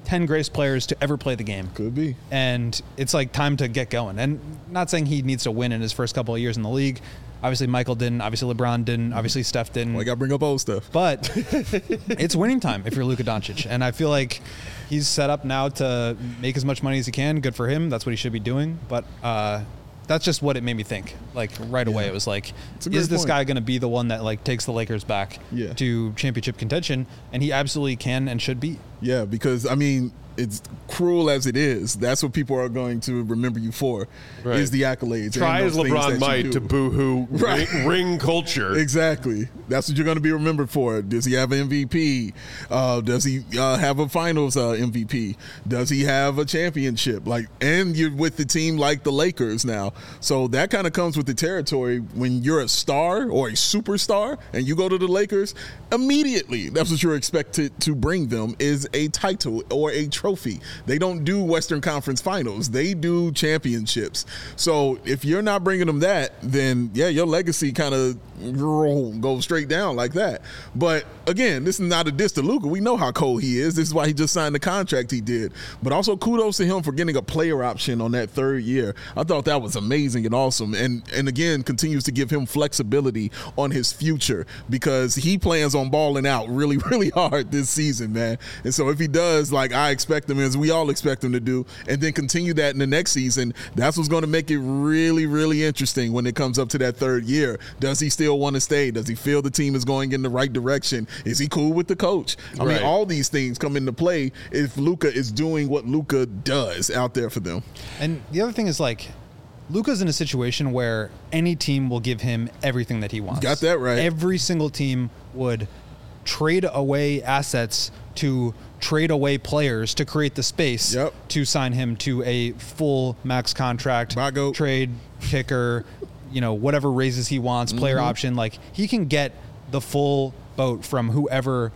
Speaker 3: 10 greatest players to ever play the game.
Speaker 4: Could be.
Speaker 3: And it's like time to get going. And not saying he needs to win in his first couple of years in the league. Obviously, Michael didn't. Obviously, LeBron didn't. Obviously, Steph didn't.
Speaker 4: Well, I got to bring up old stuff.
Speaker 3: But it's winning time if you're Luka Doncic. And I feel like he's set up now to make as much money as he can. Good for him. That's what he should be doing. But that's just what it made me think. Like right away, it was like, is this guy going to be the one that like takes the Lakers back to championship contention? And he absolutely can and should be.
Speaker 4: Yeah, because I mean, it's cruel as it is. That's what people are going to remember you for, is the accolades.
Speaker 1: Try as LeBron might to boo-hoo ring culture.
Speaker 4: Exactly. That's what you're going to be remembered for. Does he have an MVP? Does he have a finals MVP? Does he have a championship? And you're with the team like the Lakers now. So that kind of comes with the territory. When you're a star or a superstar and you go to the Lakers, immediately that's what you're expected to bring them, is a title or a trophy. They don't do Western Conference Finals. They do championships. So if you're not bringing them that, then your legacy kind of goes straight down like that. But again, this is not a diss to Luka. We know how cold he is. This is why he just signed the contract he did. But also kudos to him for getting a player option on that third year. I thought that was amazing and awesome. And again, continues to give him flexibility on his future, because he plans on balling out really, really hard this season, man. And so if he does, like I expect him, as we all expect him to do, and then continue that in the next season, that's what's going to make it really, really interesting when it comes up to that third year. Does he still want to stay? Does he feel the team is going in the right direction? Is he cool with the coach? I mean, all these things come into play if Luka is doing what Luka does out there for them.
Speaker 3: And the other thing is, like, Luka's in a situation where any team will give him everything that he wants.
Speaker 4: Got that right.
Speaker 3: Every single team would trade away assets to trade away players to create the space to sign him to a full max contract, trade, kicker, whatever raises he wants, player option. Like, he can get the full boat from whoever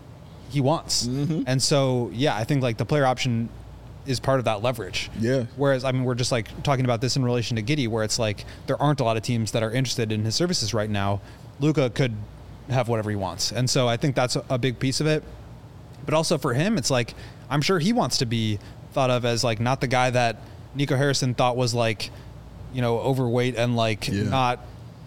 Speaker 3: he wants. And so, I think like the player option is part of that leverage. Yeah. Whereas, I mean, we're just like talking about this in relation to Giddey, where it's like there aren't a lot of teams that are interested in his services right now. Luka could have whatever he wants. And so I think that's a big piece of it. But also for him, it's like, I'm sure he wants to be thought of as like not the guy that Nico Harrison thought was like, overweight and like not,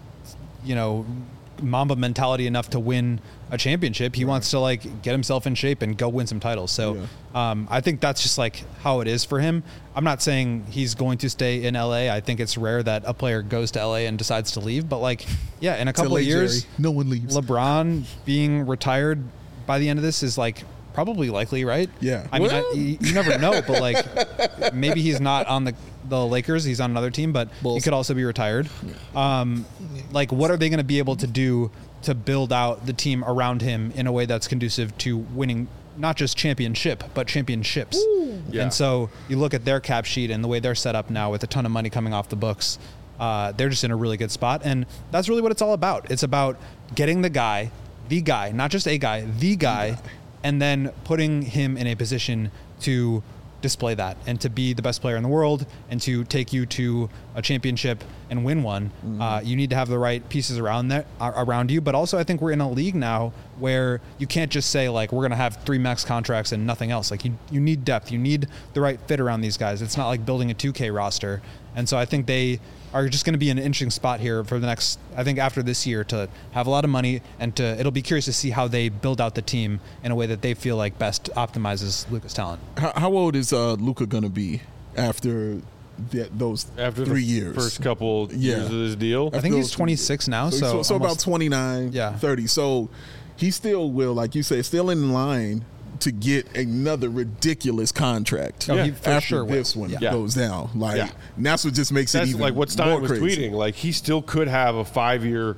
Speaker 3: Mamba mentality enough to win a championship. He wants to like get himself in shape and go win some titles. So I think that's just like how it is for him. I'm not saying he's going to stay in LA. I think it's rare that a player goes to LA and decides to leave. But like, in a couple of years,
Speaker 4: Jerry. No one leaves.
Speaker 3: LeBron being retired by the end of this is like probably likely, right?
Speaker 4: Yeah.
Speaker 3: I mean, you never know, but like maybe he's not on the Lakers. He's on another team, but he could also be retired. Like, what are they going to be able to do to build out the team around him in a way that's conducive to winning not just championship, but championships? And so you look at their cap sheet and the way they're set up now with a ton of money coming off the books. They're just in a really good spot. And that's really what it's all about. It's about getting the guy, not just a guy, the guy, and then putting him in a position to display that and to be the best player in the world and to take you to a championship and win one. You need to have the right pieces around you. But also I think we're in a league now where you can't just say like, we're going to have 3 max contracts and nothing else. Like you need depth. You need the right fit around these guys. It's not like building a 2K roster. And so I think they are just going to be in an interesting spot here for the next, I think after this year, to have a lot of money, and it'll be curious to see how they build out the team in a way that they feel like best optimizes Luka's talent.
Speaker 4: How old is Luka going to be after those 3 years?
Speaker 1: First couple years of this deal?
Speaker 3: I think he's 26 now. So
Speaker 4: about 29, 30. So he still will, like you say, still in line to get another ridiculous contract after this one goes down. And that's what just makes it even
Speaker 1: like what Stein was tweeting. Like, he still could have a 5-year,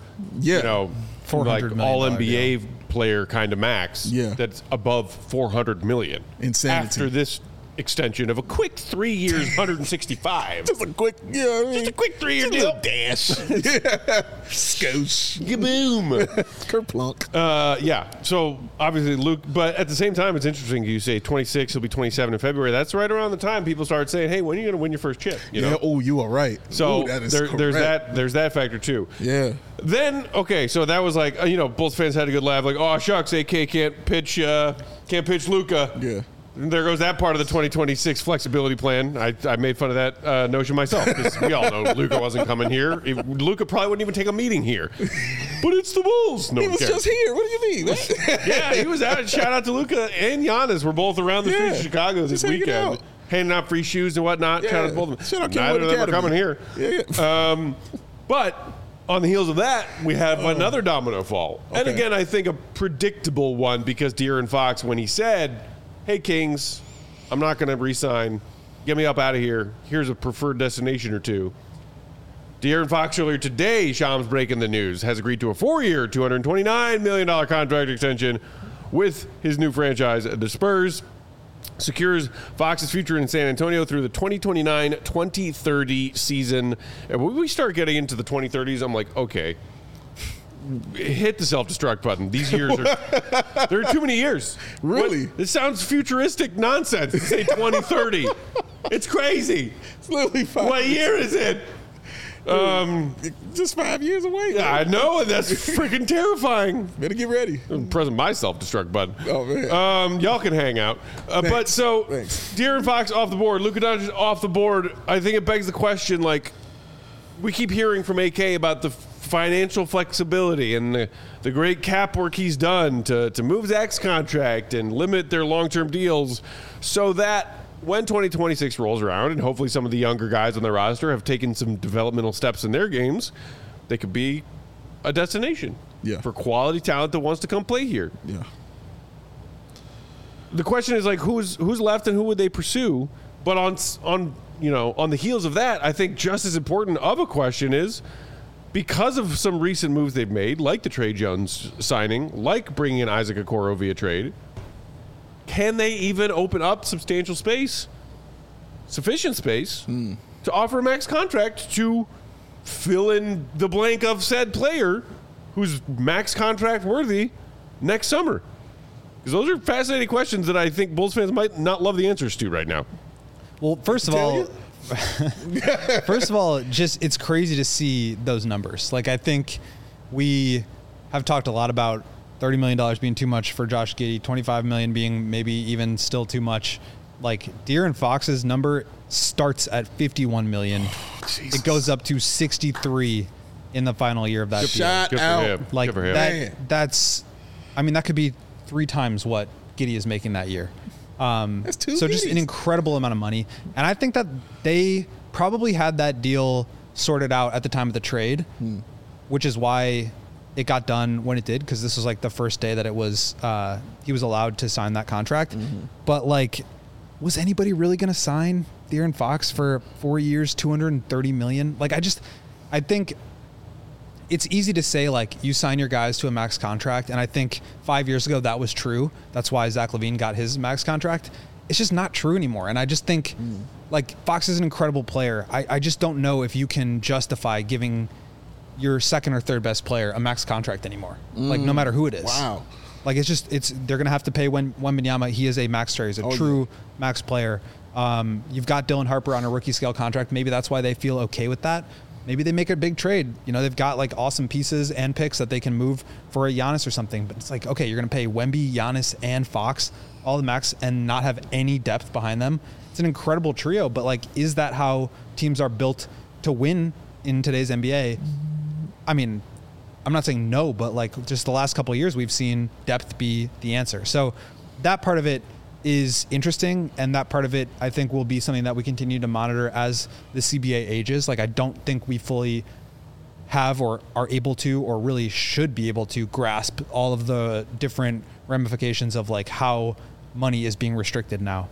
Speaker 1: like all-NBA player kind of max that's above $400 million.
Speaker 4: Insanity.
Speaker 1: After this extension of a quick 3 years, 165.
Speaker 4: Just a quick,
Speaker 1: just a quick 3-year deal.
Speaker 4: Dash. Skosh.
Speaker 1: Boom.
Speaker 4: Kerplunk.
Speaker 1: So obviously Luke, but at the same time, it's interesting. You say 26, he'll be 27 in February. That's right around the time people start saying, "Hey, when are you going to win your first chip?" You know?
Speaker 4: Oh, you are right.
Speaker 1: So
Speaker 4: that is
Speaker 1: there's that factor too.
Speaker 4: Yeah.
Speaker 1: Then so that was like Bulls fans had a good laugh. Like, oh shucks, AK can't pitch Luka.
Speaker 4: Yeah.
Speaker 1: there goes that part of the 2026 flexibility plan. I made fun of that notion myself because we all know Luka wasn't coming here. Luka probably wouldn't even take a meeting here. But it's the Bulls. No
Speaker 4: He
Speaker 1: one
Speaker 4: was
Speaker 1: cares.
Speaker 4: just here. What do you mean?
Speaker 1: Yeah, he was out. Shout out to Luka and Giannis. We're both around the streets of Chicago this
Speaker 4: just hanging
Speaker 1: weekend,
Speaker 4: out.
Speaker 1: handing out free shoes and whatnot.
Speaker 4: Yeah.
Speaker 1: Shout out to both of them.
Speaker 4: Shout out
Speaker 1: Neither of them are
Speaker 4: Kenwood
Speaker 1: coming here.
Speaker 4: Yeah.
Speaker 1: But on the heels of that, we have another domino fall. And
Speaker 4: Okay.
Speaker 1: again, I think a predictable one because De'Aaron Fox, when he said, hey, Kings, I'm not going to re-sign. Get me up out of here. Here's a preferred destination or two. De'Aaron Fox earlier today, Shams breaking the news, has agreed to a 4-year, $229 million contract extension with his new franchise, the Spurs. Secures Fox's future in San Antonio through the 2029-2030 season. And when we start getting into the 2030s, I'm like, okay, hit the self-destruct button. These years are there are too many years.
Speaker 4: Really?
Speaker 1: This sounds futuristic nonsense to say 2030. It's crazy.
Speaker 4: It's literally 5
Speaker 1: What year is it?
Speaker 4: Just 5 years away.
Speaker 1: Yeah, I know, and that's freaking terrifying.
Speaker 4: Better get ready.
Speaker 1: I'm pressing my self-destruct button.
Speaker 4: Oh, man.
Speaker 1: Y'all can hang out. But so,
Speaker 4: Thanks.
Speaker 1: De'Aaron Fox off the board, Luka Doncic off the board. I think it begs the question, like, we keep hearing from AK about the financial flexibility and the great cap work he's done to move Zach's contract and limit their long-term deals so that when 2026 rolls around and hopefully some of the younger guys on their roster have taken some developmental steps in their games, they could be a destination for quality talent that wants to come play here.
Speaker 4: Yeah.
Speaker 1: The question is like who's left and who would they pursue? But on the heels of that, I think just as important of a question is because of some recent moves they've made, like the Trey Jones signing, like bringing in Isaac Okoro via trade. Can they even open up substantial space, sufficient space, to offer a max contract to fill in the blank of said player who's max contract worthy next summer? Because those are fascinating questions that I think Bulls fans might not love the answers to right now.
Speaker 3: Well, first of all, just it's crazy to see those numbers. Like, I think we have talked a lot about $30 million being too much for Josh Giddey, $25 million being maybe even still too much. Like, De'Aaron Fox's number starts at $51 million. It goes up to 63 in the final year of that deal.
Speaker 4: Shot
Speaker 1: Good for
Speaker 4: out.
Speaker 1: him.
Speaker 3: Like,
Speaker 1: Good for him.
Speaker 3: that could be 3 times what Giddey is making that year.
Speaker 4: That's 2
Speaker 3: So just an
Speaker 4: Giddies.
Speaker 3: incredible amount of money. And I think that they probably had that deal sorted out at the time of the trade, which is why it got done when it did, because this was like the first day that it was he was allowed to sign that contract. But like, was anybody really going to sign De'Aaron Fox for 4 years, $230 million? Like, I think it's easy to say, like, you sign your guys to a max contract, and I think 5 years ago that was true. That's why Zach LaVine got his max contract. It's just not true anymore. And I just think, like, Fox is an incredible player. I just don't know if you can justify giving your second or third best player a max contract anymore. Like, no matter who it is.
Speaker 4: Wow.
Speaker 3: Like, they're going to have to pay Wembanyama. He is a max player. He's a true max player. You've got Dylan Harper on a rookie scale contract. Maybe that's why they feel okay with that. Maybe they make a big trade. You know, they've got like awesome pieces and picks that they can move for a Giannis or something. But it's like, okay, you're going to pay Wemby, Giannis, and Fox all the max and not have any depth behind them. It's an incredible trio. But like, is that how teams are built to win in today's NBA? I mean, I'm not saying no, but like just the last couple of years, we've seen depth be the answer. So that part of it is interesting, and that part of it I think will be something that we continue to monitor as the CBA ages. Like, I don't think we fully have or are able to or really should be able to grasp all of the different ramifications of like how money is being restricted now.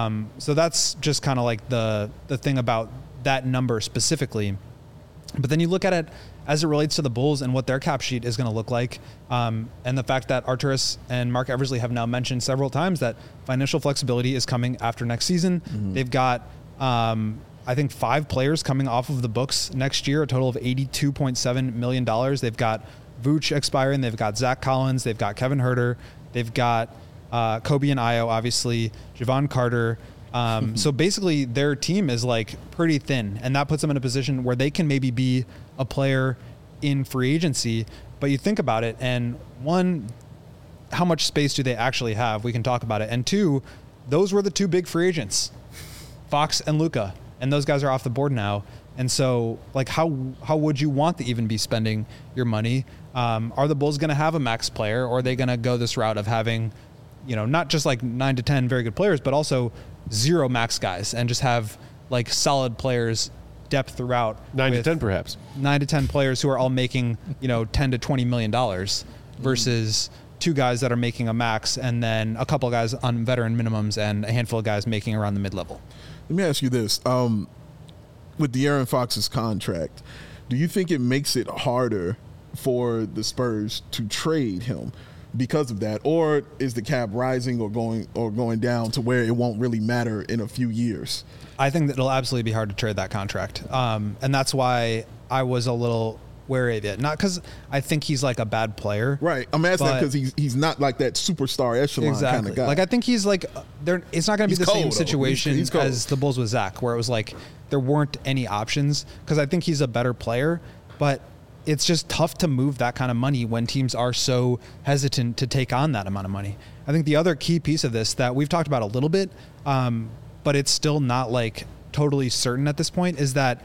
Speaker 3: So that's just kind of like the thing about that number specifically. But then you look at it as it relates to the Bulls and what their cap sheet is going to look like, and the fact that Arturas and Mark Eversley have now mentioned several times that financial flexibility is coming after next season. They've got, I think, 5 players coming off of the books next year, a total of $82.7 million. They've got Vooch expiring. They've got Zach Collins. They've got Kevin Huerter. They've got Kobe and Ayo, obviously, Javon Carter. So basically their team is like pretty thin, and that puts them in a position where they can maybe be a player in free agency. But you think about it, and one, how much space do they actually have? We can talk about it. And two, those were the two big free agents, Fox and Luka, and those guys are off the board now. And so, like, how would you want to even be spending your money? Are the Bulls going to have a max player, or are they going to go this route of having, not just like 9 to 10 very good players, but also 0 max guys and just have like solid players, depth throughout?
Speaker 1: 9 to 10 perhaps.
Speaker 3: 9 to 10 players who are all making, $10 to $20 million versus 2 guys that are making a max, and then a couple guys on veteran minimums and a handful of guys making around the mid-level.
Speaker 4: Let me ask you this. With De'Aaron Fox's contract, do you think it makes it harder for the Spurs to trade him because of that, or is the cap rising or going down to where it won't really matter in a few years?
Speaker 3: I think that it'll absolutely be hard to trade that contract, and that's why I was a little wary of it. Not because I think he's like a bad player,
Speaker 4: right? I'm asking that because he's not like that superstar echelon kind of guy.
Speaker 3: Like, I think he's like it's not going to be the same situation
Speaker 4: he's
Speaker 3: as the Bulls with Zach, where it was like there weren't any options, because I think he's a better player, but it's just tough to move that kind of money when teams are so hesitant to take on that amount of money. I think the other key piece of this that we've talked about a little bit, but it's still not like totally certain at this point, is that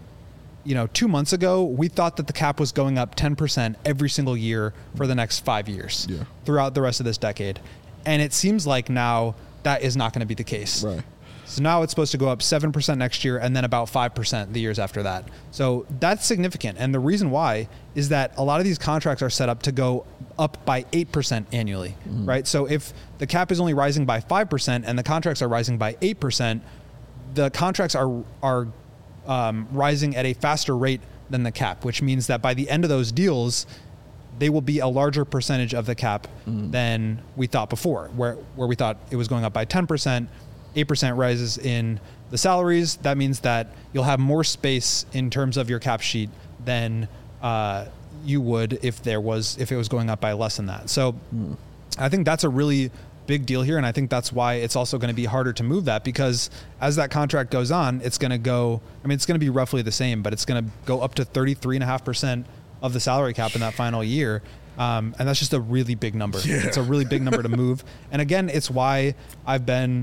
Speaker 3: 2 months ago, we thought that the cap was going up 10% every single year for the next 5 years throughout the rest of this decade. And it seems like now that is not going to be the case.
Speaker 4: Right.
Speaker 3: So now it's supposed to go up 7% next year and then about 5% the years after that. So that's significant. And the reason why is that a lot of these contracts are set up to go up by 8% annually, right? So if the cap is only rising by 5% and the contracts are rising by 8%, the contracts are rising at a faster rate than the cap, which means that by the end of those deals, they will be a larger percentage of the cap than we thought before, where we thought it was going up by 10%, 8% rises in the salaries. That means that you'll have more space in terms of your cap sheet than you would if it was going up by less than that. So I think that's a really big deal here, and I think that's why it's also going to be harder to move that, because as that contract goes on, it's going to be roughly the same, but it's going to go up to 33.5% of the salary cap in that final year. And that's just a really big number. Yeah. It's a really big number to move. And again, it's why I've been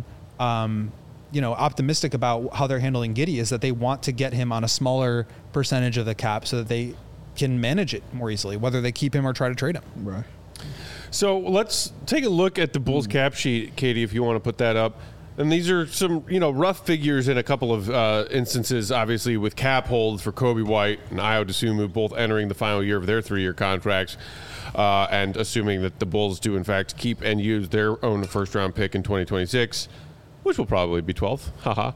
Speaker 3: optimistic about how they're handling Giddey, is that they want to get him on a smaller percentage of the cap so that they can manage it more easily, whether they keep him or try to trade him.
Speaker 4: Right.
Speaker 1: So let's take a look at the Bulls cap sheet, Katie, if you want to put that up. And these are some, rough figures in a couple of instances, obviously, with cap holds for Coby White and Ayo Dosunmu both entering the final year of their 3-year contracts, and assuming that the Bulls do, in fact, keep and use their own first-round pick in 2026, which will probably be 12th. Haha.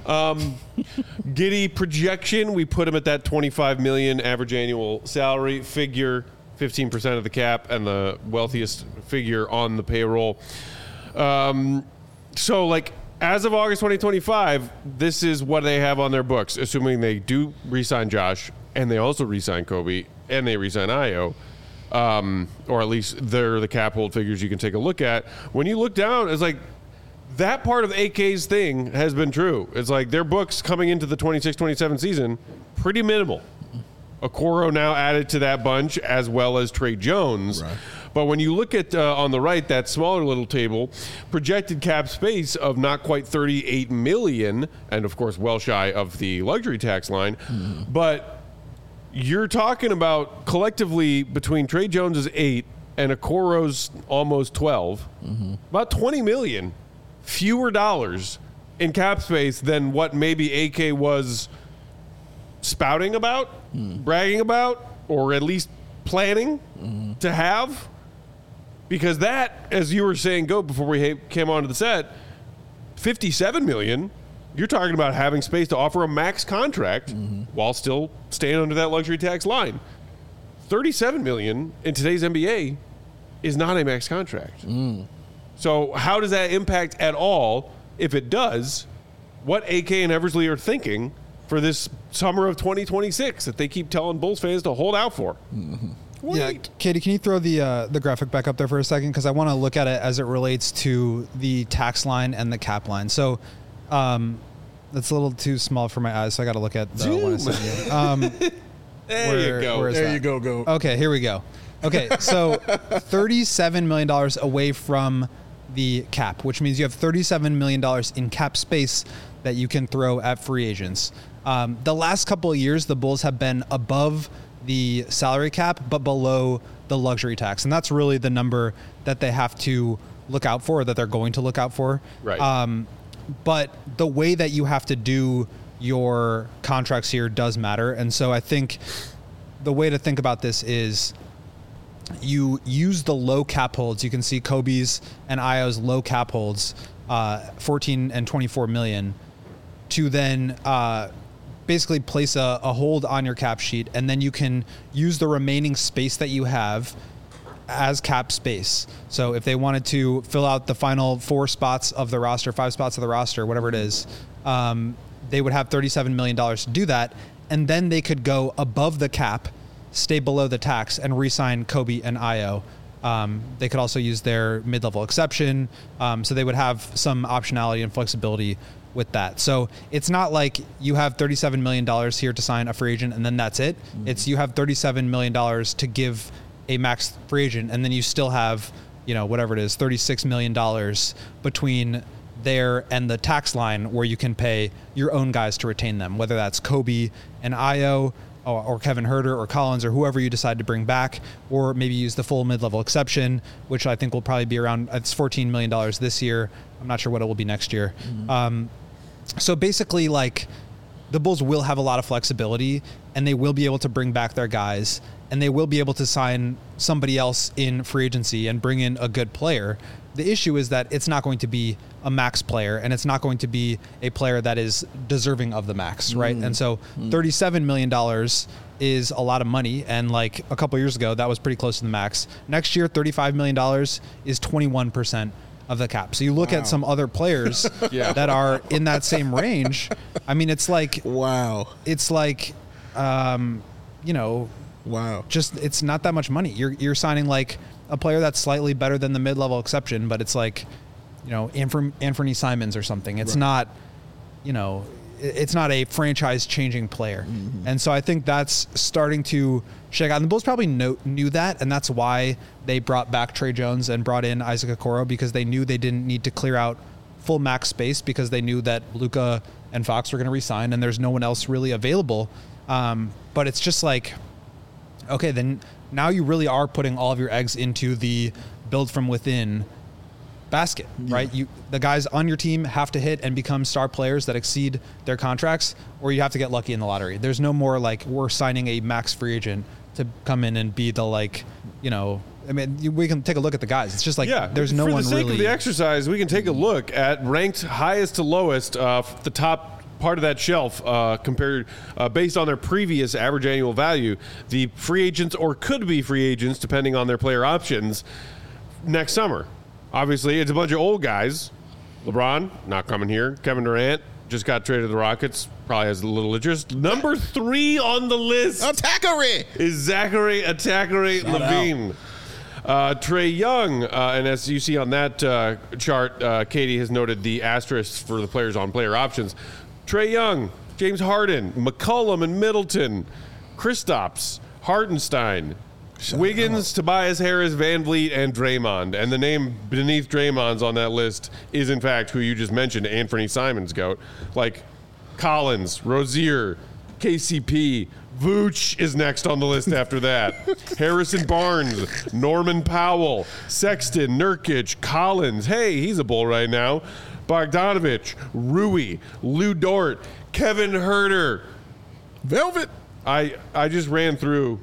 Speaker 1: Giddey projection, we put him at that $25 million average annual salary figure, 15% of the cap, and the wealthiest figure on the payroll. So, as of August 2025, this is what they have on their books, assuming they do re-sign Josh, and they also re-sign Coby, and they re-sign Ayo, or at least they're the cap hold figures you can take a look at. When you look down, it's like that part of AK's thing has been true. It's like their books coming into the 26-27 season, pretty minimal. Okoro now added to that bunch, as well as Trey Jones. Right. But when you look at, on the right, that smaller little table, projected cap space of not quite $38 million, and of course well shy of the luxury tax line, but you're talking about collectively between Trey Jones's 8 and Okoro's almost 12, about $20 million fewer dollars in cap space than what maybe AK was spouting about, bragging about, or at least planning to have. Because that, as you were saying, before we came onto the set, $57 million, you're talking about having space to offer a max contract while still staying under that luxury tax line. $37 million in today's NBA is not a max contract. So how does that impact at all, if it does, what AK and Eversley are thinking for this summer of 2026 that they keep telling Bulls fans to hold out for?
Speaker 3: Yeah, Katie, can you throw the graphic back up there for a second? Because I want to look at it as it relates to the tax line and the cap line. So that's a little too small for my eyes, so I got to look at the one I sent you.
Speaker 1: There you go.
Speaker 4: There you go.
Speaker 3: Okay, here we go. Okay, so $37 million away from the cap, which means you have $37 million in cap space that you can throw at free agents. The last couple of years, the Bulls have been above the salary cap, but below the luxury tax. And that's really the number that they have to look out for, or that they're going to look out for.
Speaker 1: Right.
Speaker 3: But the way that you have to do your contracts here does matter. And so I think the way to think about this is you use the low cap holds. You can see Kobe's and Io's low cap holds, 14 and 24 million, to then basically place a hold on your cap sheet, and then you can use the remaining space that you have as cap space. So if they wanted to fill out the final 4 spots of the roster, 5 spots of the roster, whatever it is, they would have $37 million to do that, and then they could go above the cap, stay below the tax, and re-sign Kobe and Io. They could also use their mid-level exception, so they would have some optionality and flexibility with that. So it's not like you have $37 million here to sign a free agent and then that's it. It's you have $37 million to give a max free agent, and then you still have, whatever it is, $36 million between there and the tax line where you can pay your own guys to retain them, whether that's Kobe and Io or Kevin Huerter or Collins or whoever you decide to bring back, or maybe use the full mid-level exception, which I think will probably be around, it's $14 million this year. I'm not sure what it will be next year. So basically, like, the Bulls will have a lot of flexibility, and they will be able to bring back their guys, and they will be able to sign somebody else in free agency and bring in a good player. The issue is that it's not going to be a max player, and it's not going to be a player that is deserving of the max, right? And so $37 million is a lot of money, and like a couple years ago, that was pretty close to the max. Next year, $35 million is 21% of the cap. So you look at some other players that are in that same range. I mean, it's like, it's like, just, it's not that much money. You're signing like a player that's slightly better than the mid-level exception, but it's like, Anthony Simons or something. It's not, it's not a franchise-changing player. And so I think that's starting to shake out. And the Bulls probably knew that, and that's why they brought back Trey Jones and brought in Isaac Okoro, because they knew they didn't need to clear out full max space, because they knew that Luka and Fox were going to re-sign, and there's no one else really available. But it's just like, okay, then now you really are putting all of your eggs into the build from within basket, right? The guys on your team have to hit and become star players that exceed their contracts, or you have to get lucky in the lottery. There's no more like, we're signing a max free agent to come in and be the, like, I mean, we can take a look at the guys. It's just like, there's no one really. For the sake
Speaker 1: of the exercise, we can take a look at ranked highest to lowest, the top part of that shelf, compared based on their previous average annual value, the free agents or could be free agents, depending on their player options, next summer. Obviously, it's a bunch of old guys. LeBron, not coming here. Kevin Durant just got traded to the Rockets. Probably has a little interest. Number 3 on the list is Zachary Levine. Trae Young, and as you see on that chart, Katie has noted the asterisks for the players on player options. Trae Young, James Harden, McCollum and Middleton, Kristaps, Hartenstein, Wiggins, Tobias Harris, Van Vliet, and Draymond. And the name beneath Draymond's on that list is, in fact, who you just mentioned, Anthony Simons, GOAT. Like Collins, Rozier, KCP, Vooch is next on the list after that. Harrison Barnes, Norman Powell, Sexton, Nurkic, Collins. Hey, he's a Bull right now. Bogdanovich, Rui, Lou Dort, Kevin Huerter.
Speaker 4: Velvet.
Speaker 1: I just ran through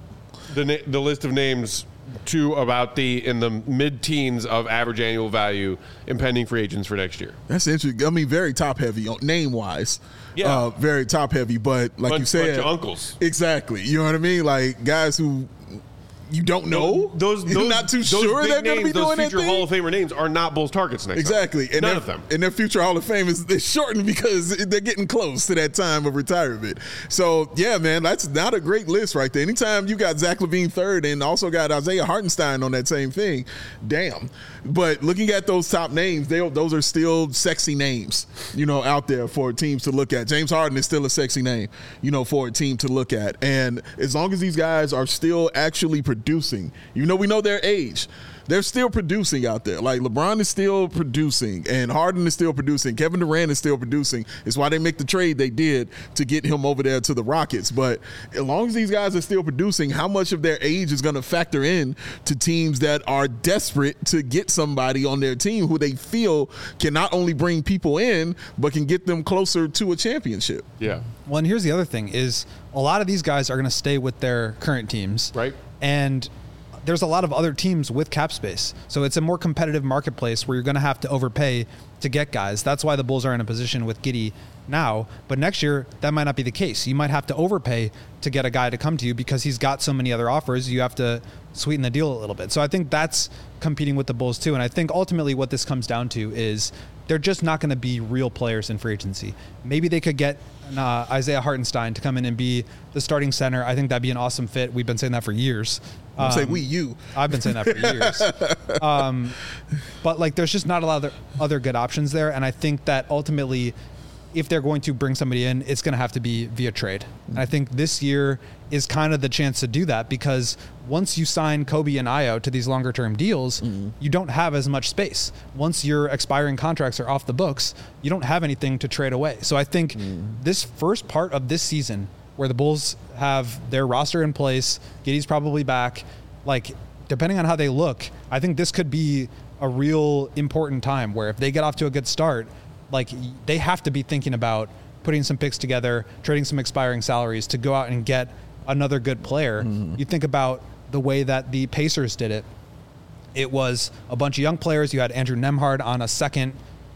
Speaker 1: the list of names to about in the mid-teens of average annual value impending free agents for next year.
Speaker 4: That's interesting. I mean, very top-heavy name-wise.
Speaker 1: Yeah.
Speaker 4: Very top-heavy, but like you said.
Speaker 1: Bunch of uncles.
Speaker 4: Exactly. You know what I mean? Like, guys who you don't know. You're not too sure they're going to be doing that thing.
Speaker 1: Those future Hall of Famer names are not Bulls targets next
Speaker 4: Exactly.
Speaker 1: time. None of them.
Speaker 4: And their future Hall of Fame is shortened because they're getting close to that time of retirement. So, yeah, man, that's not a great list right there. Anytime you got Zach LaVine third and also got Isaiah Hartenstein on that same thing, damn. But looking at those top names, those are still sexy names, out there for teams to look at. James Harden is still a sexy name, for a team to look at. And as long as these guys are still actually producing, we know their age. they're still producing out there. Like LeBron is still producing, and Harden is still producing. Kevin Durant is still producing. It's why they make the trade they did to get him over there to the Rockets. But as long as these guys are still producing, how much of their age is going to factor in to teams that are desperate to get somebody on their team who they feel can not only bring people in, but can get them closer to a championship?
Speaker 1: Yeah.
Speaker 3: Well, and here's the other thing is a lot of these guys are going to stay with their current teams.
Speaker 1: Right.
Speaker 3: And there's a lot of other teams with cap space. So it's a more competitive marketplace where you're going to have to overpay to get guys. That's why the Bulls are in a position with Giddey now. But next year, that might not be the case. You might have to overpay to get a guy to come to you because he's got so many other offers. You have to sweeten the deal a little bit. So I think that's competing with the Bulls too. And I think ultimately what this comes down to is they're just not going to be real players in free agency. Maybe they could get Isaiah Hartenstein to come in and be the starting center. I think that'd be an awesome fit. We've been saying that for years.
Speaker 4: Say you.
Speaker 3: I've been saying that for years. But like, there's just not a lot of other good options there. And I think that ultimately, if they're going to bring somebody in, it's going to have to be via trade. And I think this year is kind of the chance to do that because once you sign Kobe and Ayo to these longer term deals, you don't have as much space. Once your expiring contracts are off the books, you don't have anything to trade away. So I think this first part of this season where the Bulls have their roster in place, Giddey's probably back, like depending on how they look, I think this could be a real important time where if they get off to a good start, like they have to be thinking about putting some picks together, trading some expiring salaries to go out and get another good player. You think about the way that the Pacers did it. It was a bunch of young players. You had Andrew Nembhard on a second,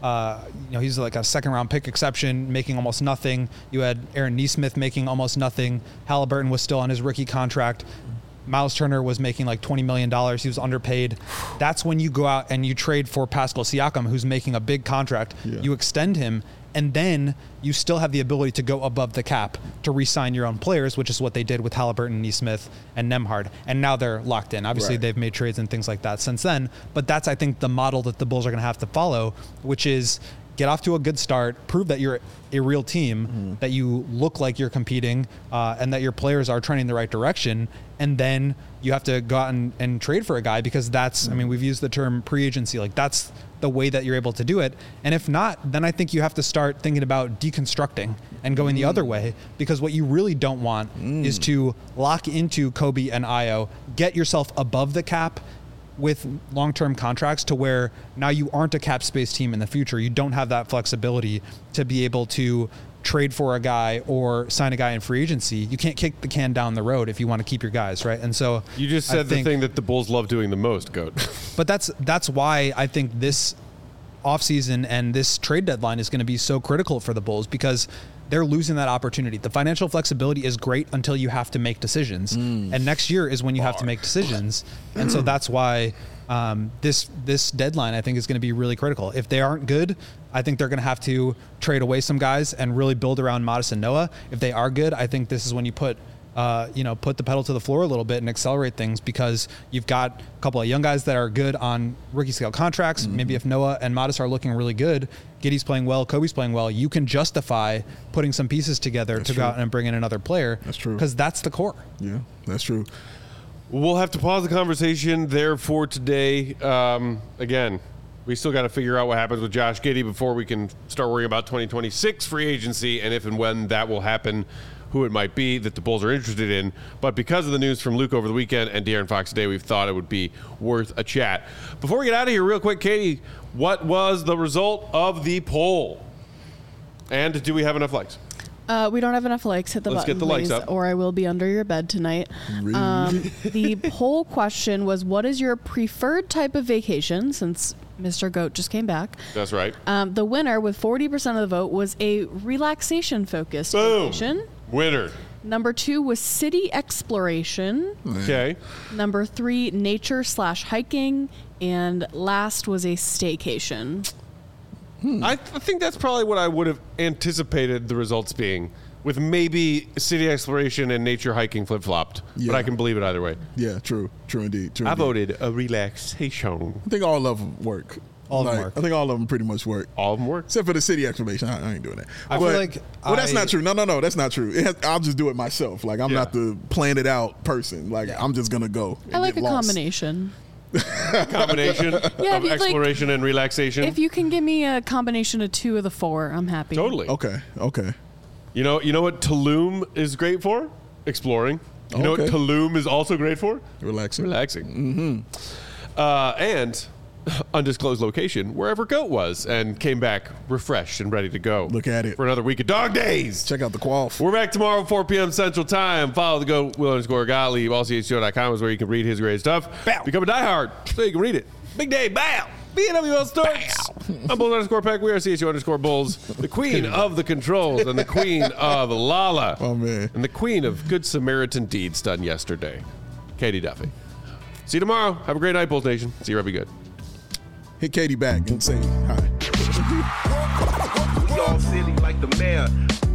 Speaker 3: he's like a second round pick exception, making almost nothing. You had Aaron Nesmith making almost nothing. Halliburton was still on his rookie contract. Miles Turner was making like $20 million. He was underpaid. That's when you go out and you trade for Pascal Siakam, who's making a big contract. Yeah. You extend him, and then you still have the ability to go above the cap to re-sign your own players, which is what they did with Halliburton, Nesmith, and Nembhard. And now they're locked in. Obviously, They've made trades and things like that since then. But that's, I think, the model that the Bulls are going to have to follow, which is get off to a good start, prove that you're a real team, that you look like you're competing, and that your players are trending in the right direction. And then you have to go out and trade for a guy because that's, I mean, we've used the term pre-agency. Like that's the way that you're able to do it. And if not, then I think you have to start thinking about deconstructing and going the other way, because what you really don't want is to lock into Kobe and Ayo, get yourself above the cap with long-term contracts to where now you aren't a cap space team in the future. You don't have that flexibility to be able to trade for a guy or sign a guy in free agency. You can't kick the can down the road if you want to keep your guys, right? And so
Speaker 1: you just said the thing that the Bulls love doing the most, Goat.
Speaker 3: But that's why I think this offseason and this trade deadline is going to be so critical for the Bulls, because they're losing that opportunity. The financial flexibility is great until you have to make decisions. And next year is when you have to make decisions. And so that's why this deadline, I think, is going to be really critical. If they aren't good, I think they're going to have to trade away some guys and really build around Modest and Noah. If they are good, I think this is when you put the pedal to the floor a little bit and accelerate things, because you've got a couple of young guys that are good on rookie scale contracts. Maybe if Noah and Modest are looking really good, Giddey's playing well, Kobe's playing well, you can justify putting some pieces together go out and bring in another player.
Speaker 4: That's true.
Speaker 3: Because that's the core.
Speaker 4: Yeah, that's true.
Speaker 1: We'll have to pause the conversation there for today. Again, we still got to figure out what happens with Josh Giddey before we can start worrying about 2026 free agency and if and when that will happen, who it might be that the Bulls are interested in. But because of the news from Luke over the weekend and De'Aaron Fox today, we've thought it would be worth a chat. Before we get out of here, real quick, Katie, what was the result of the poll? And do we have enough likes?
Speaker 2: We don't have enough likes. Hit the
Speaker 1: Let's
Speaker 2: button,
Speaker 1: get the likes
Speaker 2: please,
Speaker 1: up.
Speaker 2: or I will be under your bed tonight. The poll question was, what is your preferred type of vacation, since Mr. Goat just came back?
Speaker 1: That's right.
Speaker 2: The winner with 40% of the vote was a relaxation-focused vacation.
Speaker 1: Winner.
Speaker 2: Number 2 was city exploration.
Speaker 1: Okay.
Speaker 2: Number 3, nature/hiking. And last was a staycation.
Speaker 1: I think that's probably what I would have anticipated the results being, with maybe city exploration and nature hiking flip-flopped.
Speaker 4: Yeah.
Speaker 1: But I can believe it either way.
Speaker 4: Yeah, true indeed.
Speaker 1: I voted a relaxation.
Speaker 4: I think all of them work.
Speaker 3: All of them work.
Speaker 4: I think all of them pretty much work.
Speaker 1: All of them work.
Speaker 4: Except for the city exploration. I ain't doing that.
Speaker 3: I feel like
Speaker 4: well, that's not true. No, that's not true. I'll just do it myself. Like, I'm not the plan it out person. Like, I'm just going to go and
Speaker 2: I like
Speaker 4: get
Speaker 2: a
Speaker 4: lost.
Speaker 2: combination.
Speaker 1: combination of
Speaker 2: if you'd
Speaker 1: exploration and relaxation.
Speaker 2: If you can give me a combination of 2 of the 4, I'm happy.
Speaker 1: Totally.
Speaker 4: Okay.
Speaker 1: You know what Tulum is great for? Exploring. You know what
Speaker 4: Okay.
Speaker 1: Tulum is also great for?
Speaker 4: Relaxing.
Speaker 1: And undisclosed location, wherever Goat was, and came back refreshed and ready to go.
Speaker 4: Look at it.
Speaker 1: For another week of dog days.
Speaker 4: Check out the quaff.
Speaker 1: We're back tomorrow at 4 p.m. Central Time. Follow the GOAT, Will_Gottlieb. AllCHGO.com is where you can read his great stuff.
Speaker 3: Bow.
Speaker 1: Become a diehard so you can read it. Big day. Bow. BNWL starts. I'm Bulls_Peck. We are CHGO_Bulls. The queen of the controls and the queen of Lala.
Speaker 4: Oh, man.
Speaker 1: And the queen of good Samaritan deeds done yesterday. Katie Duffy. See you tomorrow. Have a great night, Bulls Nation. See you, Robbie Good.
Speaker 4: Hit Katie back and say hi.
Speaker 5: We all silly like the mayor.